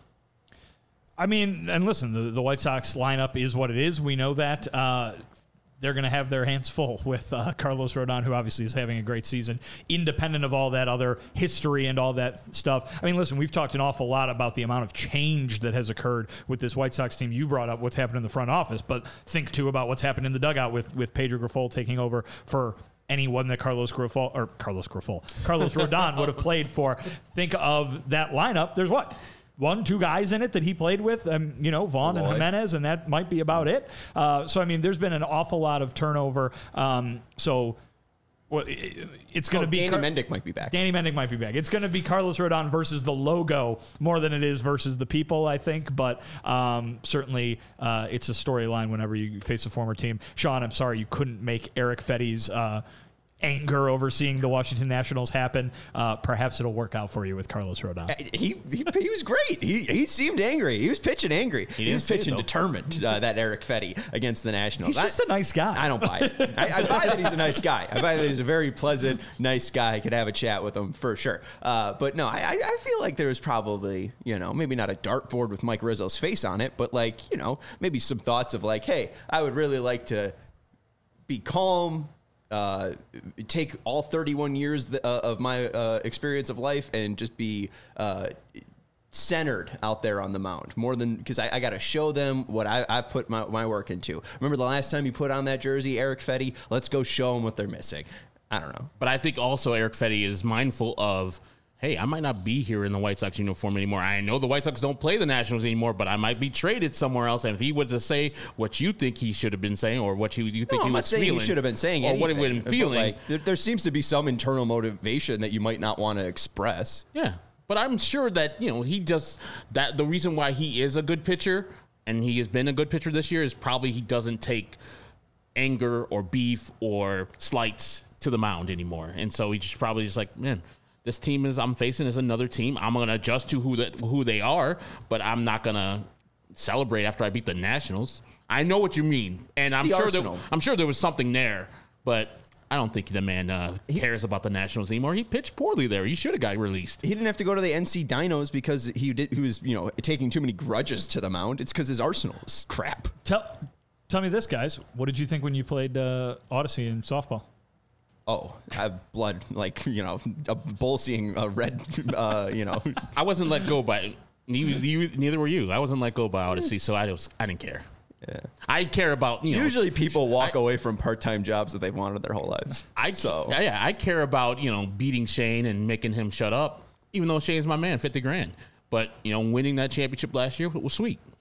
I mean, and listen, the, the White Sox lineup is what it is. We know that. Uh, they're going to have their hands full with uh, Carlos Rodon, who obviously is having a great season, independent of all that other history and all that stuff. I mean, listen, we've talked an awful lot about the amount of change that has occurred with this White Sox team. You brought up what's happened in the front office, but think, too, about what's happened in the dugout with, with Pedro Grifol taking over for anyone that Carlos Grifol, or Carlos Grifol, Carlos Rodon would have played for. Think of that lineup. There's what? One, two guys in it that he played with, um, you know, Vaughn Lloyd. and Jimenez, and that might be about it. Uh, so, I mean, there's been an awful lot of turnover. Um, so, well, it, it's going to Oh, be... Danny Car- Mendick might be back. Danny Mendick might be back. It's going to be Carlos Rodon versus the logo more than it is versus the people, I think. But um, certainly uh, it's a storyline whenever you face a former team. Sean, I'm sorry you couldn't make Eric Fetty's... Uh, anger over seeing the Washington Nationals happen. Uh, perhaps it'll work out for you with Carlos Rodon. He, he he was great. He he seemed angry. He was pitching angry. He, didn't was say it, pitching though. determined. Uh, that Eric Fetty against the Nationals. He's just I, a nice guy. I don't buy it. I, I buy that he's a nice guy. I buy that he's a very pleasant, nice guy. I could have a chat with him for sure. Uh, but no, I I feel like there was probably, you know, maybe not a dartboard with Mike Rizzo's face on it, but like, you know, maybe some thoughts of like, hey, I would really like to be calm. Uh, take all thirty-one years th- uh, of my uh, experience of life and just be uh, centered out there on the mound more than because I, I got to show them what I, I've put my, my work into. Remember the last time you put on that jersey, Eric Fetty? Let's go show them what they're missing. I don't know. But I think also Eric Fetty is mindful of, hey, I might not be here in the White Sox uniform anymore. I know the White Sox don't play the Nationals anymore, but I might be traded somewhere else. And if he was to say what you think he should have been saying or what you, you think No, he I'm not was saying feeling. he should have been saying or anything. what he would have but, been feeling. like, there, there seems to be some internal motivation that you might not want to express. Yeah. But I'm sure that, you know, he just, that the reason why he is a good pitcher and he has been a good pitcher this year is probably he doesn't take anger or beef or slights to the mound anymore. And so he's just probably just like, man, this team is I'm facing is another team. I'm going to adjust to who the, who they are, but I'm not going to celebrate after I beat the Nationals. I know what you mean. And It's I'm the sure that, Arsenal. I'm sure there was something there, but I don't think the man uh, cares about the Nationals anymore. He pitched poorly there. He should have got released. He didn't have to go to the N C Dinos because he did. He was, you know, taking too many grudges to the mound. It's because his arsenal is crap. Tell, tell me this, guys. What did you think when you played uh, Odyssey in softball? Oh, I have blood, like, you know, a bull seeing a red, uh, you know. I wasn't let go by neither, you, neither were you. I wasn't let go by Odyssey, so I was I didn't care. Yeah. I care about you know. Usually people walk I, away from part-time jobs that they've wanted their whole lives. I so yeah, yeah, I care about you know beating Shane and making him shut up, even though Shane's my man, fifty grand. But you know, winning that championship last year was sweet.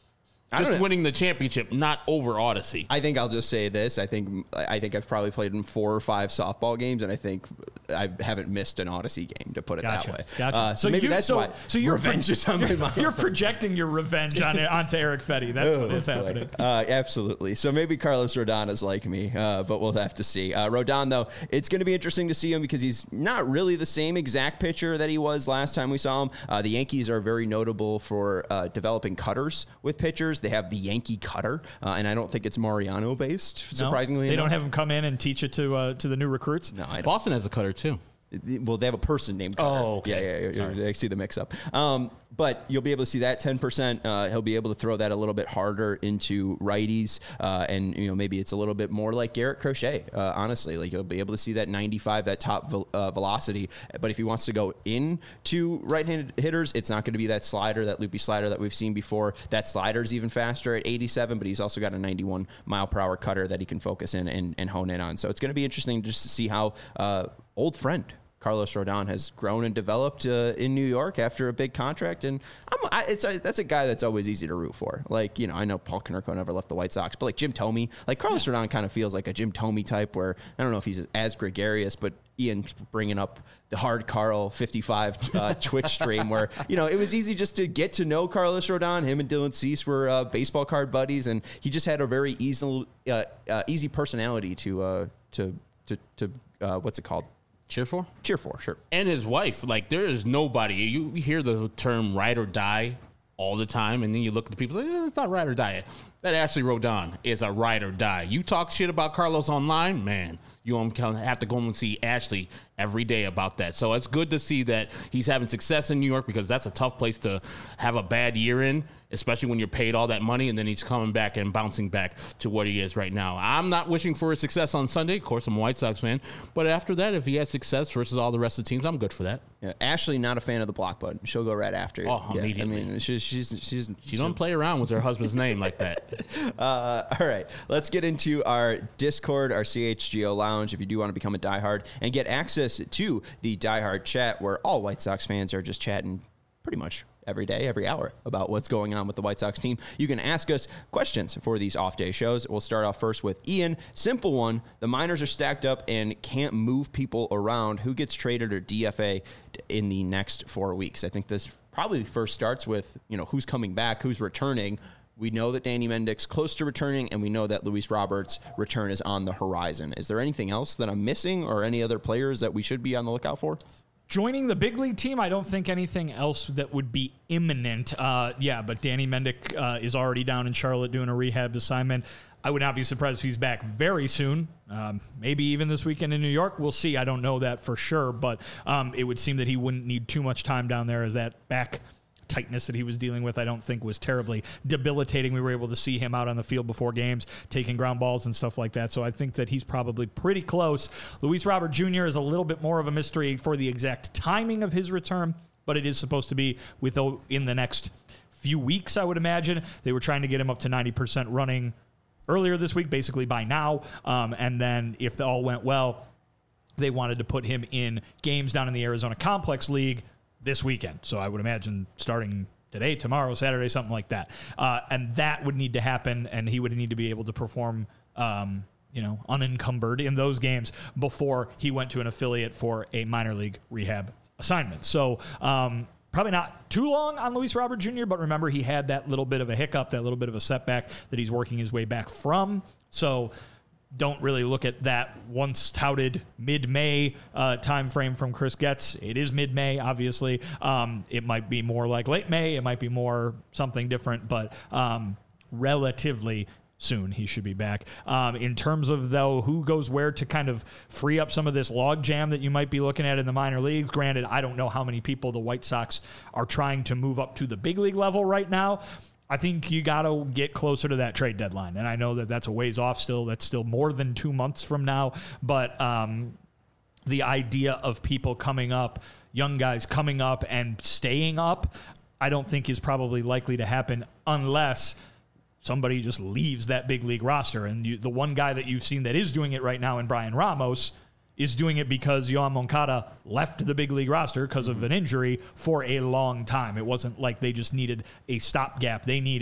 Just winning the championship, not over Odyssey. I think I'll just say this. I think I think I've probably played in four or five softball games, and I think I haven't missed an Odyssey game, to put it Gotcha. that way. Gotcha. Uh, so, So maybe you- that's so- why so you're revenge pro- is on my mind. You're projecting your revenge on onto Eric Fetty. That's what is happening. Uh, absolutely. So maybe Carlos Rodon is like me, uh, but we'll have to see. Uh, Rodon, though, it's going to be interesting to see him because he's not really the same exact pitcher that he was last time we saw him. Uh, the Yankees are very notable for uh, developing cutters with pitchers. They have the Yankee cutter, uh, and I don't think it's Mariano based. Surprisingly, No, they enough. don't have him come in and teach it to uh, to the new recruits. No, I don't. Boston has a cutter too. Well, they have a person named Cutter. Oh, okay. Yeah, yeah, yeah. Sorry. I see the mix-up. Um, but you'll be able to see that ten percent. Uh, he'll be able to throw that a little bit harder into righties, uh, and you know maybe it's a little bit more like Garrett Crochet. Uh, honestly, like you'll be able to see that ninety-five, that top vel- uh, velocity. But if he wants to go into right-handed hitters, it's not going to be that slider, that loopy slider that we've seen before. That slider's even faster at eighty-seven, but he's also got a ninety-one mile per hour cutter that he can focus in and, and hone in on. So it's going to be interesting just to see how uh, old friend Carlos Rodon has grown and developed uh, in New York after a big contract, and I'm, I, it's a, that's a guy that's always easy to root for. Like, you know, I know Paul Konerko never left the White Sox, but like Jim Thome, like Carlos Rodon kind of feels like a Jim Thome type, where I don't know if he's as gregarious, but Ian bringing up the Hard Carl fifty-five uh, Twitch stream, where you know it was easy just to get to know Carlos Rodon. Him and Dylan Cease were uh, baseball card buddies, and he just had a very easy, uh, uh, easy personality to uh, to to to uh, what's it called? Cheer for? Cheer for, sure. And his wife. Like, there is nobody. You hear the term ride or die all the time, and then you look at the people, like, eh, it's not ride or die. That Ashley Rodon is a ride or die. You talk shit about Carlos online, man, you have to go and see Ashley every day about that. So it's good to see that he's having success in New York, because that's a tough place to have a bad year in, especially when you're paid all that money, and then he's coming back and bouncing back to what he is right now. I'm not wishing for his success on Sunday. Of course, I'm a White Sox fan. But after that, if he has success versus all the rest of the teams, I'm good for that. Yeah, Ashley, not a fan of the block button. She'll go right after you. Oh, yeah, immediately. I mean, she's she's she's She don't play around with her husband's name like that. Uh, all right, let's get into our Discord, our C H G O Lounge. If you do want to become a diehard and get access to the diehard chat, where all White Sox fans are just chatting pretty much every day, every hour about what's going on with the White Sox team. You can ask us questions for these off-day shows. We'll start off first with Ian. Simple one. The minors are stacked up and can't move people around. Who gets traded or D F A in the next four weeks? I think this probably first starts with, you know, who's coming back, who's returning. We know that Danny Mendick's close to returning, and we know that Luis Roberts' return is on the horizon. Is there anything else that I'm missing, or any other players that we should be on the lookout for? Joining the big league team, I don't think anything else that would be imminent. Uh, yeah, but Danny Mendick uh, is already down in Charlotte doing a rehab assignment. I would not be surprised if he's back very soon, um, maybe even this weekend in New York. We'll see. I don't know that for sure, but um, it would seem that he wouldn't need too much time down there, as that back tightness that he was dealing with, I don't think, was terribly debilitating. We were able to see him out on the field before games, taking ground balls and stuff like that. So I think that he's probably pretty close. Luis Robert Junior is a little bit more of a mystery for the exact timing of his return, but it is supposed to be with in the next few weeks, I would imagine. They were trying to get him up to ninety percent running earlier this week, basically by now. Um, and then if the all went well, they wanted to put him in games down in the Arizona Complex League this weekend. So I would imagine starting today, tomorrow, Saturday, something like that. Uh, and that would need to happen, and he would need to be able to perform, um, you know, unencumbered in those games before he went to an affiliate for a minor league rehab assignment. So um, probably not too long on Luis Robert Junior, but remember, he had that little bit of a hiccup, that little bit of a setback that he's working his way back from. So don't really look at that once touted mid-May uh, time frame from Chris Getz. It is mid-May, obviously. Um, it might be more like late May. It might be more something different, but um, relatively soon he should be back. Um, in terms of, though, who goes where to kind of free up some of this log jam that you might be looking at in the minor leagues. Granted, I don't know how many people the White Sox are trying to move up to the big league level right now. I think you got to get closer to that trade deadline. And I know that that's a ways off still. That's still more than two months from now. But um, the idea of people coming up, young guys coming up and staying up, I don't think is probably likely to happen unless somebody just leaves that big league roster. And you, the one guy that you've seen that is doing it right now in Brian Ramos is doing it because Yoan Moncada left the big league roster because of an injury for a long time. It wasn't like they just needed a stopgap. They needed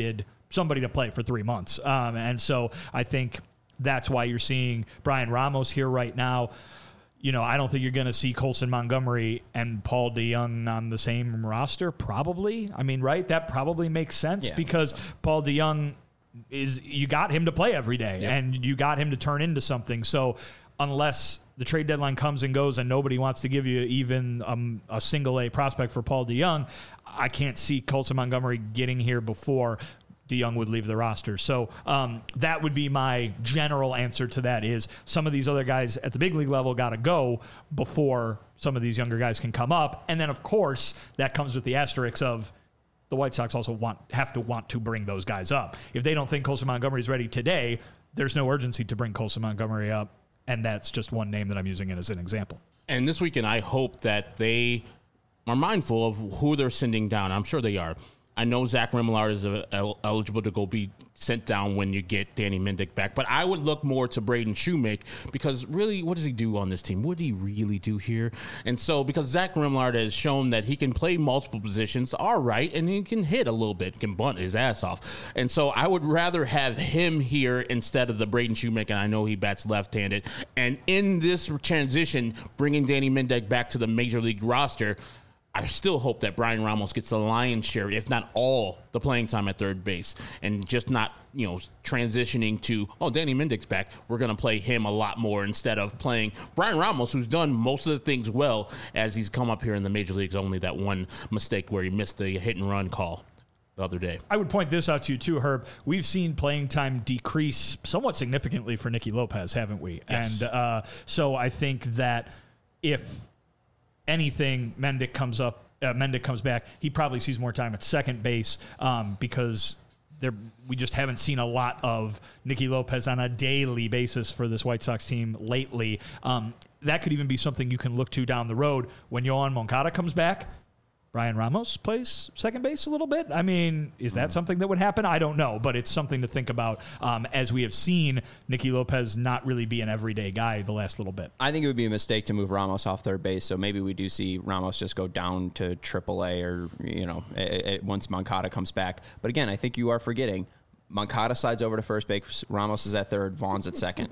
somebody to play for three months. Um, and so I think that's why you're seeing Brian Ramos here right now. You know, I don't think you're going to see Colson Montgomery and Paul DeJong on the same roster, probably. I mean, right? That probably makes sense Yeah. because Paul DeJong is, you got him to play every day Yep. and you got him to turn into something. So unless the trade deadline comes and goes and nobody wants to give you even um, a single A prospect for Paul DeJong, I can't see Colson Montgomery getting here before DeJong would leave the roster. So um, that would be my general answer to that is some of these other guys at the big league level got to go before some of these younger guys can come up. And then, of course, that comes with the asterisks of the White Sox also want have to want to bring those guys up. If they don't think Colson Montgomery is ready today, there's no urgency to bring Colson Montgomery up. And that's just one name that I'm using it as an example. And this weekend, I hope that they are mindful of who they're sending down. I'm sure they are. I know Zach Remillard is uh, el- eligible to go be sent down when you get Danny Mendick back, but I would look more to Braden Shoemake because really, what does he do on this team? What did he really do here? And so, because Zach Remillard has shown that he can play multiple positions, all right, and he can hit a little bit, can bunt his ass off. And so, I would rather have him here instead of the Braden Shoemake, and I know he bats left-handed. And in this transition, bringing Danny Mendick back to the major league roster, I still hope that Brian Ramos gets the lion's share, if not all, the playing time at third base, and just not, you know, transitioning to, oh, Danny Mendick's back, we're going to play him a lot more instead of playing Brian Ramos, who's done most of the things well as he's come up here in the major leagues. Only that one mistake where he missed the hit and run call the other day. I would point this out to you too, Herb. We've seen playing time decrease somewhat significantly for Nicky Lopez, haven't we? Yes. And uh, so I think that if anything, Mendick comes up, uh, Mendick comes back, he probably sees more time at second base um, because there we just haven't seen a lot of Nicky Lopez on a daily basis for this White Sox team lately. Um, that could even be something you can look to down the road when Yohan Moncada comes back. Brian Ramos plays second base a little bit. I mean, is that something that would happen? I don't know, but it's something to think about um, as we have seen Nicky Lopez not really be an everyday guy the last little bit. I think it would be a mistake to move Ramos off third base, so maybe we do see Ramos just go down to triple A or, you know, a, a, once Moncada comes back. But again, I think you are forgetting Moncada slides over to first base, Ramos is at third, Vaughn's at second.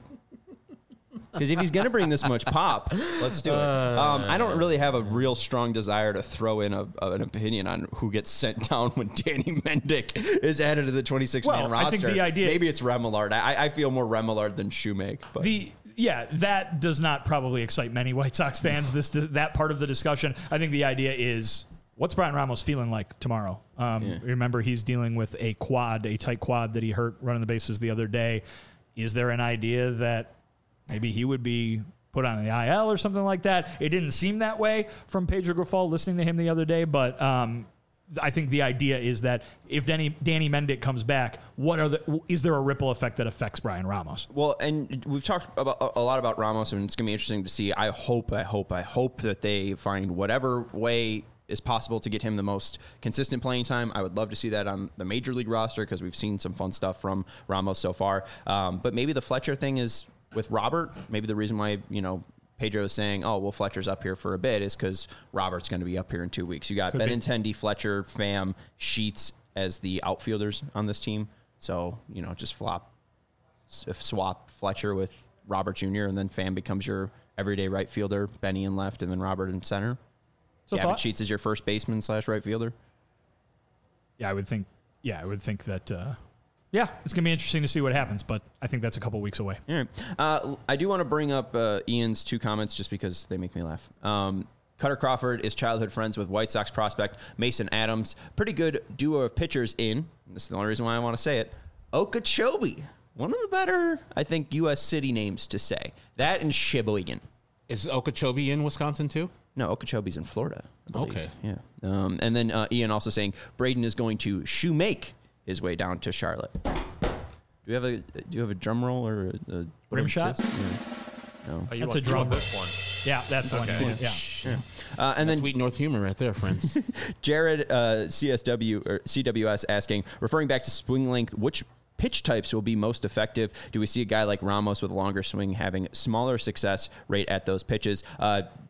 Because if he's going to bring this much pop, let's do it. Um, I don't really have a real strong desire to throw in a, a, an opinion on who gets sent down when Danny Mendick is added to the twenty-six man Well, roster. I think the idea- Maybe it's Remillard. I, I feel more Remillard than Shoemake. But. The yeah, that does not probably excite many White Sox fans. This that part of the discussion. I think the idea is, what's Brian Ramos feeling like tomorrow? Um, Yeah. Remember, he's dealing with a quad, a tight quad that he hurt running the bases the other day. Is there an idea that maybe he would be put on the I L or something like that? It didn't seem that way from Pedro Grifol listening to him the other day, but um, I think the idea is that if Danny, Danny Mendick comes back, what are the is there a ripple effect that affects Brian Ramos? Well, and we've talked about a lot about Ramos, and it's going to be interesting to see. I hope, I hope, I hope that they find whatever way is possible to get him the most consistent playing time. I would love to see that on the major league roster because we've seen some fun stuff from Ramos so far. Um, but maybe the Fletcher thing is with Robert. Maybe the reason why, you know, Pedro is saying, oh, well, Fletcher's up here for a bit is because Robert's going to be up here in two weeks. You got Could be. Benintendi, Fletcher, Pham, Sheets as the outfielders on this team. So, you know, just flop, swap Fletcher with Robert Junior, and then Pham becomes your everyday right fielder, Benny in left, and then Robert in center. So Gavin thought? Sheets is your first baseman slash right fielder. Yeah, I would think. Yeah, I would think that. Uh, yeah, it's gonna be interesting to see what happens, but I think that's a couple weeks away. All right. Uh, I do want to bring up uh, Ian's two comments just because they make me laugh. Um, Cutter Crawford is childhood friends with White Sox prospect Mason Adams. Pretty good duo of pitchers in. This is the only reason why I want to say it. Okeechobee. One of the better, I think, U S city names to say. That and Sheboygan. Is Okeechobee in Wisconsin too? No, Okeechobee's in Florida, I believe. Okay. Yeah. Um, and then uh, Ian also saying Braden is going to shoe make his way down to Charlotte. Do you have a Do you have a drum roll or a, a Rim shot? Yeah. No. Oh, you That's want, a drum. you want this Yeah, that's the Okay. one. Yeah. Uh, and then Sweet North humor right there, friends. Jared uh, C S W or C W S asking, referring back to swing length, which pitch types will be most effective? Do we see a guy like Ramos with a longer swing having smaller success rate at those pitches? Uh,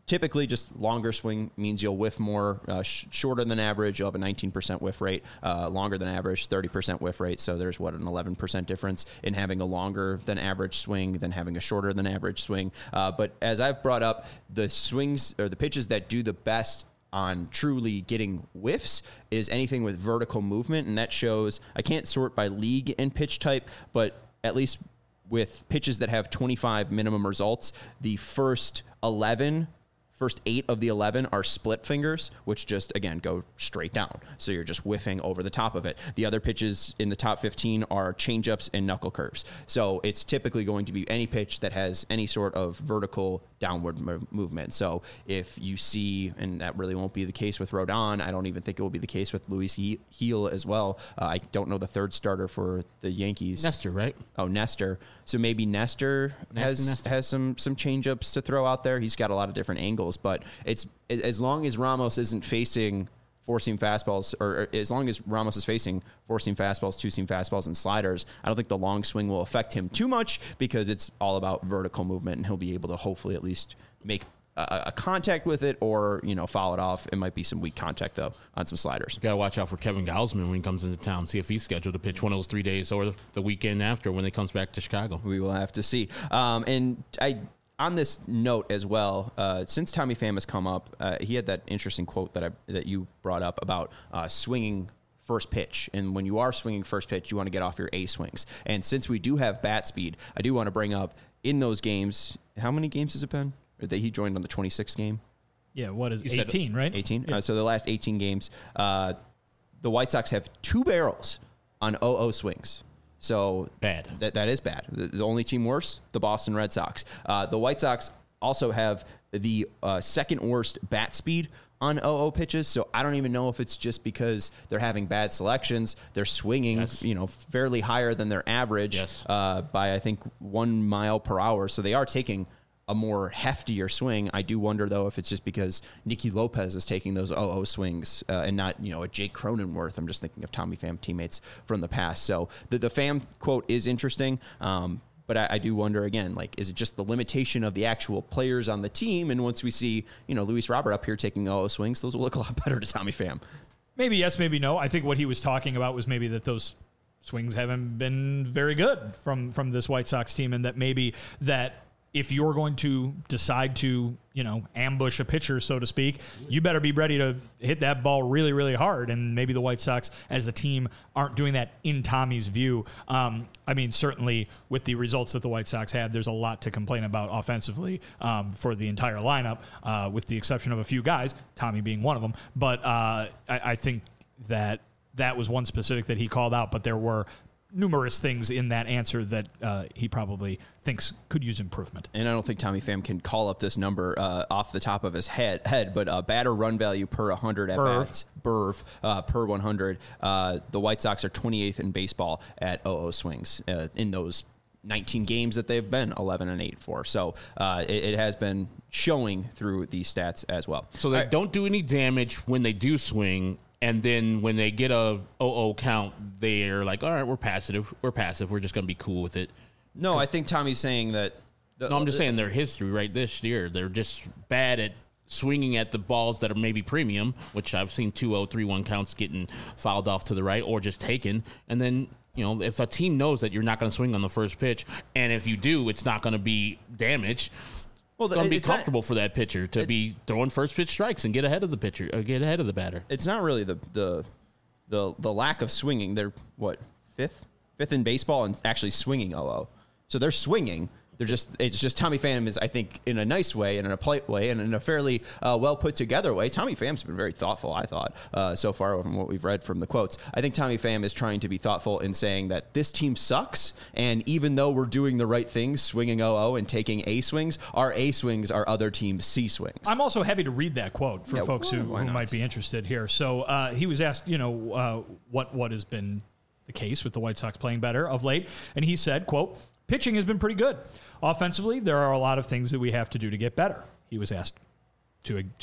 typically, just longer swing means you'll whiff more. Uh, sh- shorter than average, you'll have a nineteen percent whiff rate. Uh, longer than average, thirty percent whiff rate. So there's, what, an eleven percent difference in having a longer than average swing than having a shorter than average swing. Uh, but as I've brought up, the swings or the pitches that do the best on truly getting whiffs is anything with vertical movement. And that shows, I can't sort by league and pitch type, but at least with pitches that have twenty-five minimum results, the first eleven, first eight of the eleven are split fingers, which just, again, go straight down. So you're just whiffing over the top of it. The other pitches in the top fifteen are changeups and knuckle curves. So it's typically going to be any pitch that has any sort of vertical downward mo- movement. So if you see, and that really won't be the case with Rodon, I don't even think it will be the case with Luis he- Heel as well. Uh, I don't know the third starter for the Yankees. Nestor, right? Oh, Nestor. So maybe Nestor has Nestor. has some some changeups to throw out there. He's got a lot of different angles, but it's as long as Ramos isn't facing four-seam fastballs, or, or as long as Ramos is facing four-seam fastballs, two-seam fastballs, and sliders, I don't think the long swing will affect him too much because it's all about vertical movement, and he'll be able to hopefully at least make a, a contact with it, or you know, foul it off. It might be some weak contact though on some sliders. Got to watch out for Kevin Gausman when he comes into town. See if he's scheduled to pitch one of those three days or the weekend after when he comes back to Chicago. We will have to see. Um, and I. On this note as well, uh, since Tommy Pham has come up, uh, he had that interesting quote that I that you brought up about uh, swinging first pitch. And when you are swinging first pitch, you want to get off your A swings. And since we do have bat speed, I do want to bring up in those games, how many games has it been? Or that he joined on the twenty-sixth game? Yeah, what is You said eighteen, right? eighteen? Yeah. Uh, so the last eighteen games, uh, the White Sox have two barrels on oh oh swings. So Bad. That that is bad. The, the only team worse, the Boston Red Sox. Uh, the White Sox also have the uh, second worst bat speed on oh oh pitches. So I don't even know if it's just because they're having bad selections. They're swinging, Yes. you know, fairly higher than their average Yes. uh, by I think one mile per hour. So they are taking a more heftier swing. I do wonder, though, if it's just because Nicky Lopez is taking those oh oh swings uh, and not, you know, a Jake Cronenworth. I'm just thinking of Tommy Pham teammates from the past. So the, the Pham quote is interesting, um, but I, I do wonder, again, like, is it just the limitation of the actual players on the team? And once we see, you know, Luis Robert up here taking oh oh swings, those will look a lot better to Tommy Pham. Maybe yes, maybe no. I think what he was talking about was maybe that those swings haven't been very good from, from this White Sox team, and that maybe that if you're going to decide to, you know, ambush a pitcher, so to speak, you better be ready to hit that ball really, really hard. And maybe the White Sox as a team aren't doing that in Tommy's view. Um, I mean, certainly with the results that the White Sox had, there's a lot to complain about offensively um, for the entire lineup, uh, with the exception of a few guys, Tommy being one of them. But uh, I, I think that that was one specific that he called out, but there were numerous things in that answer that uh, he probably thinks could use improvement. And I don't think Tommy Pham can call up this number uh, off the top of his head, head but uh, batter run value per one hundred at bats, B R V, uh, per one hundred. Uh, the White Sox are twenty-eighth in baseball at oh oh swings uh, in those nineteen games that they've been eleven and eight for. So uh, it, it has been showing through these stats as well. So they All right. don't do any damage when they do swing. And then when they get a oh oh count, they're like, all right, we're passive. We're passive. We're just going to be cool with it. No, I think Tommy's saying that. No, I'm just saying their history right this year. They're just bad at swinging at the balls that are maybe premium, which I've seen two oh, three one counts getting fouled off to the right or just taken. And then, you know, if a team knows that you're not going to swing on the first pitch, and if you do, it's not going to be damage. Well, It's going to be it's not- comfortable for that pitcher to be throwing first pitch strikes and get ahead of the pitcher, or get ahead of the batter. It's not really the the the the lack of swinging. They're what, fifth fifth in baseball and actually swinging oh oh. So they're swinging. They're just it's just Tommy Pham is, I think, in a nice way and in a polite way and in a fairly uh, well put together way. Tommy Pham's been very thoughtful, I thought, uh, so far from what we've read from the quotes. I think Tommy Pham is trying to be thoughtful in saying that this team sucks, and even though we're doing the right things, swinging oh oh and taking A swings, our A swings are other teams' C swings. I'm also happy to read that quote for Yeah, folks who, why who not? might be interested here. So uh, he was asked, you know, uh, what what has been the case with the White Sox playing better of late, and he said, quote, pitching has been pretty good. Offensively, there are a lot of things that we have to do to get better. He was asked to to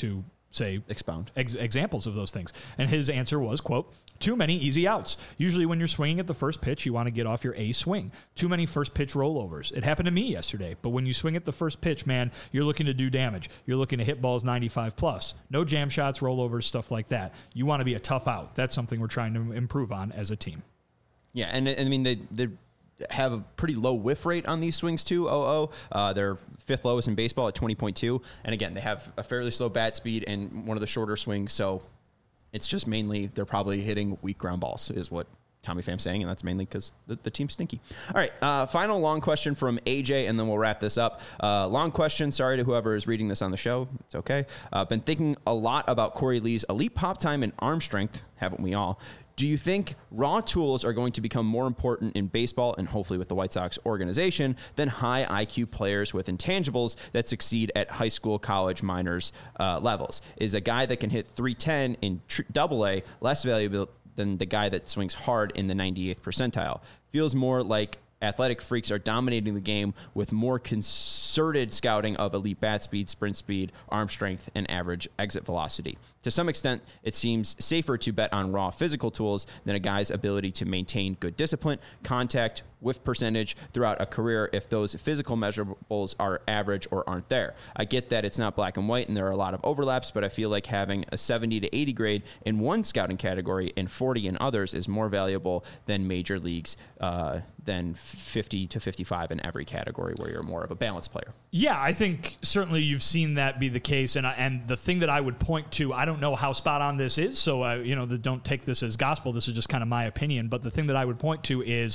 say Expound. Ex- examples of those things. And his answer was, quote, too many easy outs. Usually when you're swinging at the first pitch, you want to get off your A swing. Too many first pitch rollovers. It happened to me yesterday. But when you swing at the first pitch, man, you're looking to do damage. You're looking to hit balls ninety-five plus. No jam shots, rollovers, stuff like that. You want to be a tough out. That's something we're trying to improve on as a team. Yeah, and, and I mean, they they have a pretty low whiff rate on these swings too. oh oh. Uh, they're fifth lowest in baseball at twenty point two. And again, they have a fairly slow bat speed and one of the shorter swings. So it's just mainly they're probably hitting weak ground balls is what Tommy Pham's saying. And that's mainly because the, the team's stinky. All right. Uh, final long question from A J, and then we'll wrap this up. Uh, long question. Sorry to whoever is reading this on the show. It's okay. Uh, been thinking a lot about Corey Lee's elite pop time and arm strength. Haven't we all? Do you think raw tools are going to become more important in baseball and hopefully with the White Sox organization than high I Q players with intangibles that succeed at high school, college, minors uh, levels? Is a guy that can hit three ten in tr- double A less valuable than the guy that swings hard in the ninety-eighth percentile? Feels more like athletic freaks are dominating the game with more concerted scouting of elite bat speed, sprint speed, arm strength, and average exit velocity. To some extent, it seems safer to bet on raw physical tools than a guy's ability to maintain good discipline, contact, whiff percentage throughout a career if those physical measurables are average or aren't there. I get that it's not black and white and there are a lot of overlaps, but I feel like having a seventy to eighty grade in one scouting category and forty in others is more valuable than major leagues, uh, than fifty to fifty-five in every category where you're more of a balanced player. Yeah, I think certainly you've seen that be the case. And I, and the thing that I would point to, I don't know how spot on this is, so I, you know, the, don't take this as gospel. This is just kind of my opinion. But the thing that I would point to is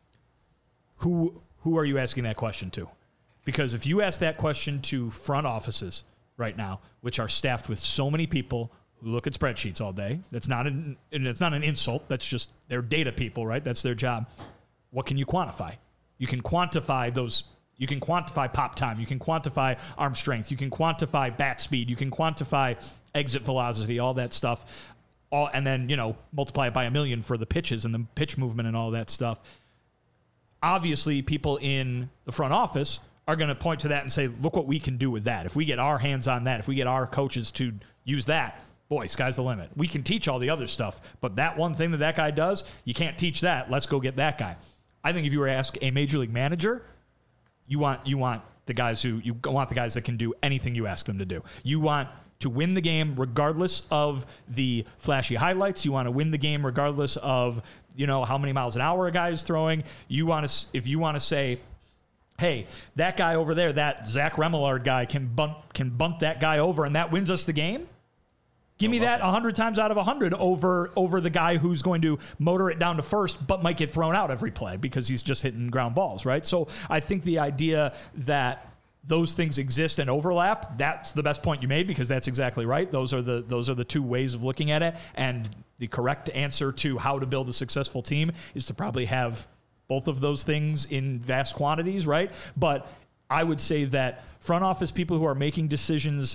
who who are you asking that question to? Because if you ask that question to front offices right now, which are staffed with so many people who look at spreadsheets all day, that's not an and it's not an insult. That's just they're data people, right? That's their job. What can you quantify? You can quantify those. You can quantify pop time. You can quantify arm strength. You can quantify bat speed. You can quantify exit velocity, all that stuff. All, and then, you know, multiply it by a million for the pitches and the pitch movement and all that stuff. Obviously, people in the front office are going to point to that and say, look what we can do with that. If we get our hands on that, if we get our coaches to use that, boy, sky's the limit. We can teach all the other stuff, but that one thing that that guy does, you can't teach that. Let's go get that guy. I think if you were to ask a major league manager, you want you want the guys who you want the guys that can do anything you ask them to do. You want to win the game regardless of the flashy highlights. You want to win the game regardless of, you know, how many miles an hour a guy is throwing. You want to if you want to say, hey, that guy over there, that Zach Remillard guy can bunt can bunt that guy over and that wins us the game. Give me that one hundred times out of one hundred over over the guy who's going to motor it down to first but might get thrown out every play because he's just hitting ground balls, right? So I think the idea that those things exist and overlap, that's the best point you made because that's exactly right. Those are the those are the two ways of looking at it. And the correct answer to how to build a successful team is to probably have both of those things in vast quantities, right? But I would say that front office people who are making decisions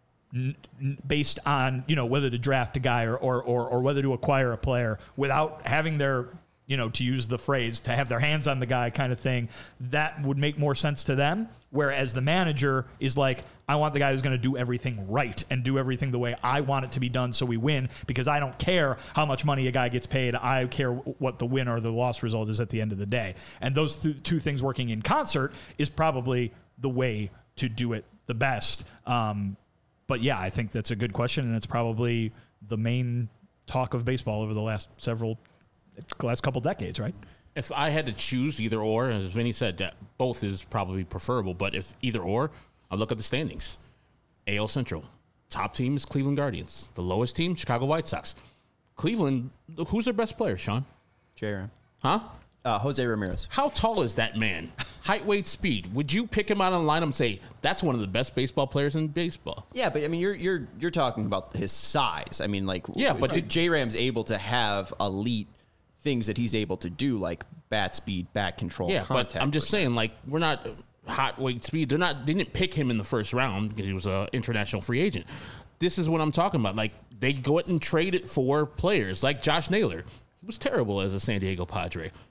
based on, you know, whether to draft a guy or, or, or, or whether to acquire a player without having their, you know, to use the phrase, to have their hands on the guy kind of thing, that would make more sense to them. Whereas the manager is like, I want the guy who's going to do everything right and do everything the way I want it to be done so we win because I don't care how much money a guy gets paid. I care what the win or the loss result is at the end of the day. And those th- two things working in concert is probably the way to do it the best. Um, But yeah, I think that's a good question, and it's probably the main talk of baseball over the last several, last couple decades, right? If I had to choose either or, as Vinny said, that both is probably preferable. But if either or, I look at the standings. A L Central, top team is Cleveland Guardians. The lowest team, Chicago White Sox. Cleveland, who's their best player, Sean? J-Ram. Huh? Uh, Jose Ramirez. How tall is that man? Height, weight, speed. Would you pick him out on the lineup and say that's one of the best baseball players in baseball? Yeah, but I mean, you're you're you're talking about his size. I mean, like, yeah, but did J-Ram's able to have elite things that he's able to do, like bat speed, bat control, yeah, contact. but I'm just saying, like, we're not hot weight speed. They're not. They didn't pick him in the first round because he was an international free agent. This is what I'm talking about. Like, they go out and trade it for players like Josh Naylor. He was terrible as a San Diego Padre.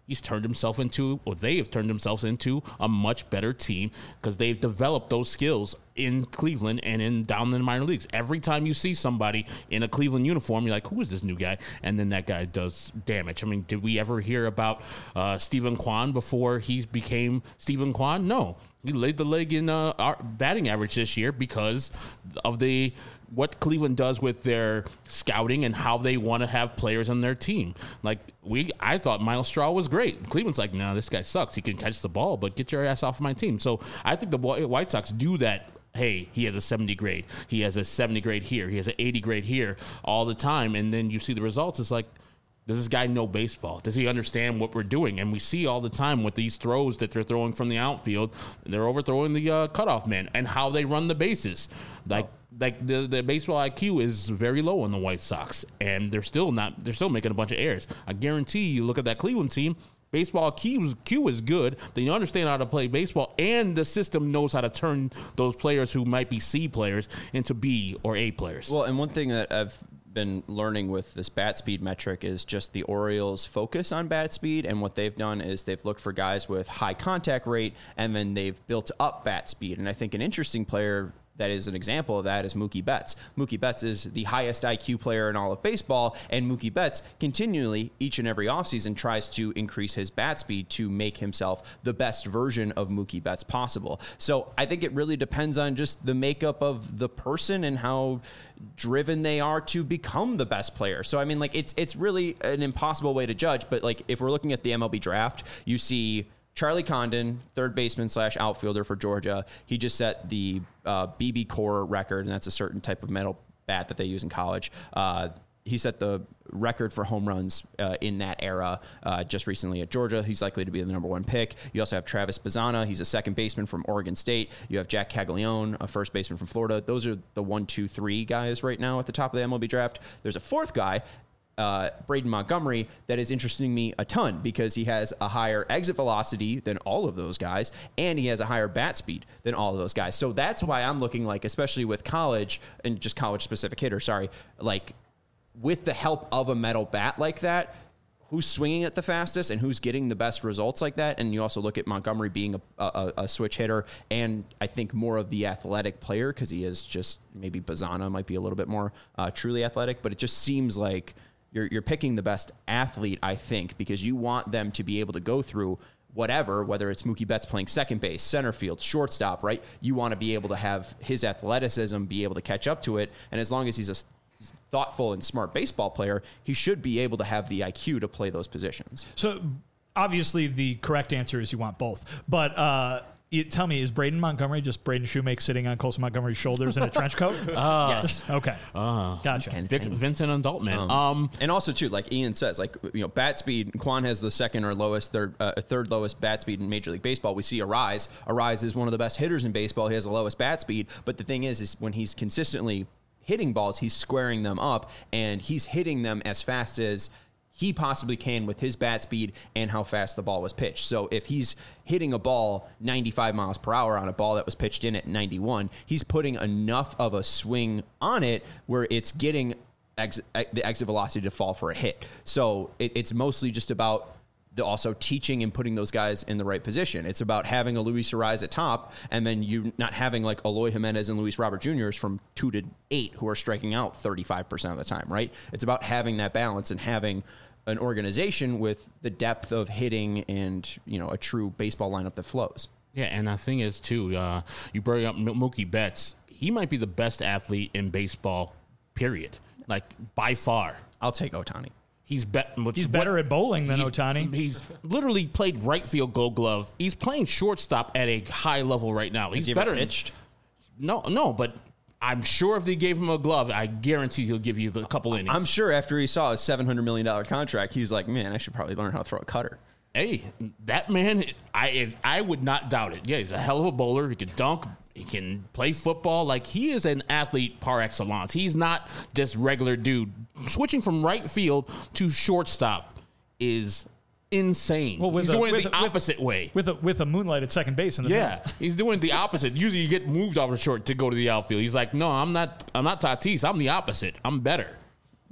he's turned himself into, or they have turned themselves into a much better team because they've developed those skills in Cleveland and in down in the minor leagues. Every time you see somebody in a Cleveland uniform, you're like, who is this new guy? And then that guy does damage. I mean, did we ever hear about uh, Stephen Kwan before he became Stephen Kwan? No. He laid the leg in uh, our batting average this year because of the what Cleveland does with their scouting and how they want to have players on their team. Like we, I thought Miles Straw was great. Cleveland's like, no, this guy sucks. He can catch the ball, but get your ass off my team. So I think the White Sox do that. Hey, he has a seventy grade. He has a seventy grade here. He has an eighty grade here all the time. And then you see the results. It's like, does this guy know baseball? Does he understand what we're doing? And we see all the time with these throws that they're throwing from the outfield, they're overthrowing the uh, cutoff man and how they run the bases. Like, oh. like the, the baseball I Q is very low on the White Sox, and they're still not. They're still making a bunch of errors. I guarantee you, look at that Cleveland team. Baseball Q is, Q is good. They understand how to play baseball, and the system knows how to turn those players who might be C players into B or A players. Well, and one thing that I've been learning with this bat speed metric is just the Orioles' focus on bat speed, and what they've done is they've looked for guys with high contact rate, and then they've built up bat speed. And I think an interesting player that is an example of that is Mookie Betts. Mookie Betts is the highest I Q player in all of baseball, and Mookie Betts continually, each and every offseason, tries to increase his bat speed to make himself the best version of Mookie Betts possible. So I think it really depends on just the makeup of the person and how driven they are to become the best player. So, I mean, like, it's it's really an impossible way to judge, but, like, if we're looking at the M L B draft, you see Charlie Condon, third baseman slash outfielder for Georgia. He just set the uh, B B Core record, and that's a certain type of metal bat that they use in college. Uh, he set the record for home runs uh, in that era uh, just recently at Georgia. He's likely to be the number one pick. You also have Travis Bazzana. He's a second baseman from Oregon State. You have Jack Caglione, a first baseman from Florida. Those are the one, two, three guys right now at the top of the M L B draft. There's a fourth guy, Uh, Braden Montgomery, that is interesting me a ton because he has a higher exit velocity than all of those guys, and he has a higher bat speed than all of those guys. So that's why I'm looking like, especially with college and just college specific hitter, sorry, like with the help of a metal bat like that, who's swinging it the fastest and who's getting the best results like that. And you also look at Montgomery being a, a, a switch hitter, and I think more of the athletic player because he is just, maybe Bazzana might be a little bit more uh, truly athletic, but it just seems like You're, you're picking the best athlete, I think, because you want them to be able to go through whatever, whether it's Mookie Betts playing second base, center field, shortstop, right? You want to be able to have his athleticism be able to catch up to it. And as long as he's a thoughtful and smart baseball player, he should be able to have the I Q to play those positions. So obviously the correct answer is you want both. But uh, it, tell me, is Braden Montgomery just Braden Shoemake sitting on Colson Montgomery's shoulders in a trench coat? Uh, yes. Okay. Uh, gotcha. Vic, Vincent Adultman. Um, um, and also, too, like Ian says, like, you know, bat speed, Quan has the second or lowest, third, uh, third lowest bat speed in Major League Baseball. We see Arise. Arise is one of the best hitters in baseball. He has the lowest bat speed. But the thing is, is when he's consistently hitting balls, he's squaring them up, and he's hitting them as fast as he possibly can with his bat speed and how fast the ball was pitched. So if he's hitting a ball ninety-five miles per hour on a ball that was pitched in at ninety-one, he's putting enough of a swing on it where it's getting ex- the exit velocity to fall for a hit. So it, it's mostly just about the also teaching and putting those guys in the right position. It's about having a Luis Arise at top, and then you not having like Eloy Jimenez and Luis Robert Juniors from two to eight who are striking out thirty-five percent of the time, right? It's about having that balance and having an organization with the depth of hitting and, you know, a true baseball lineup that flows. Yeah, and the thing is, too, uh, you bring up Mookie Betts. He might be the best athlete in baseball, period. Like, by far. I'll take Ohtani. He's, be- he's better at bowling than he's, Ohtani. He's literally played right field Gold Glove. He's playing shortstop at a high level right now. He's he better. Ever pitched? No, no, but I'm sure if they gave him a glove, I guarantee he'll give you a couple innings. I'm sure after he saw a seven hundred million dollars contract, he was like, man, I should probably learn how to throw a cutter. Hey, that man, I if, I would not doubt it. Yeah, he's a hell of a bowler. He can dunk. He can play football. Like, he is an athlete par excellence. He's not just regular dude. Switching from right field to shortstop is insane. Well, he's a, doing it the a, opposite with, way. With a, with a moonlight at second base in the Yeah, field. He's doing the opposite. Usually you get moved off the short to go to the outfield. He's like, no, I'm not I'm not Tatis. I'm the opposite. I'm better.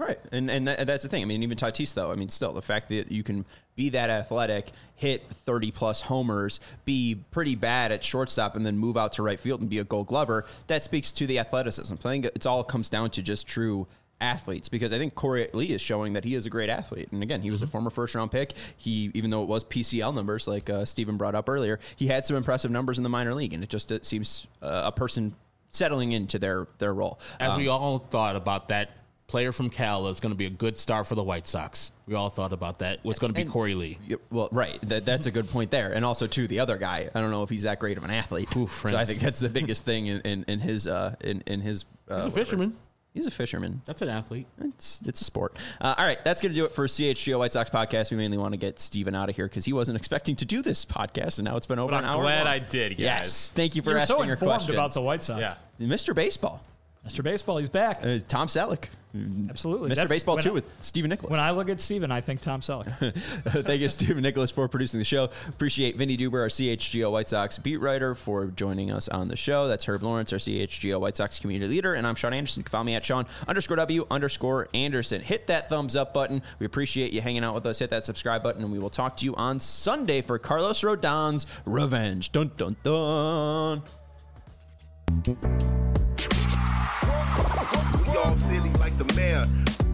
Right, and and that, that's the thing. I mean, even Tatis, though. I mean, still the fact that you can be that athletic, hit thirty plus homers, be pretty bad at shortstop, and then move out to right field and be a Gold Glover. That speaks to the athleticism. Playing, it's all comes down to just true athletes, because I think Corey Lee is showing that he is a great athlete. And again, he was mm-hmm. a former first round pick. He, even though it was P C L numbers, like uh, Steven brought up earlier, he had some impressive numbers in the minor league, and it just it seems uh, a person settling into their their role. As um, we all thought about that player from Cal is going to be a good star for the White Sox. We all thought about that. What's going to be and, Corey Lee? Well, right. That, that's a good point there. And also, too, the other guy, I don't know if he's that great of an athlete. Ooh, so I think that's the biggest thing in, in, in his... Uh, in, in his uh, He's a fisherman. He's a fisherman. That's an athlete. It's it's a sport. Uh, all right, that's going to do it for C H G O White Sox podcast. We mainly want to get Steven out of here because he wasn't expecting to do this podcast, and now it's been over but an I'm hour. glad long. I did, guys. Yes, thank you for You're asking so your informed questions. about the White Sox. Yeah. Mister Baseball. Mister Baseball, he's back. Uh, Tom Selleck. Absolutely. Mister That's- Baseball, when too, I- with Stephen Nicholas. When I look at Steven, I think Tom Selleck. Thank you, Stephen Nicholas, for producing the show. Appreciate Vinny Duber, our C H G O White Sox beat writer, for joining us on the show. That's Herb Lawrence, our C H G O White Sox community leader. And I'm Sean Anderson. You can follow me at Sean underscore W underscore Anderson. Hit that thumbs up button. We appreciate you hanging out with us. Hit that subscribe button, and we will talk to you on Sunday for Carlos Rodon's Revenge. Dun, dun, dun. Y'all silly like the mayor.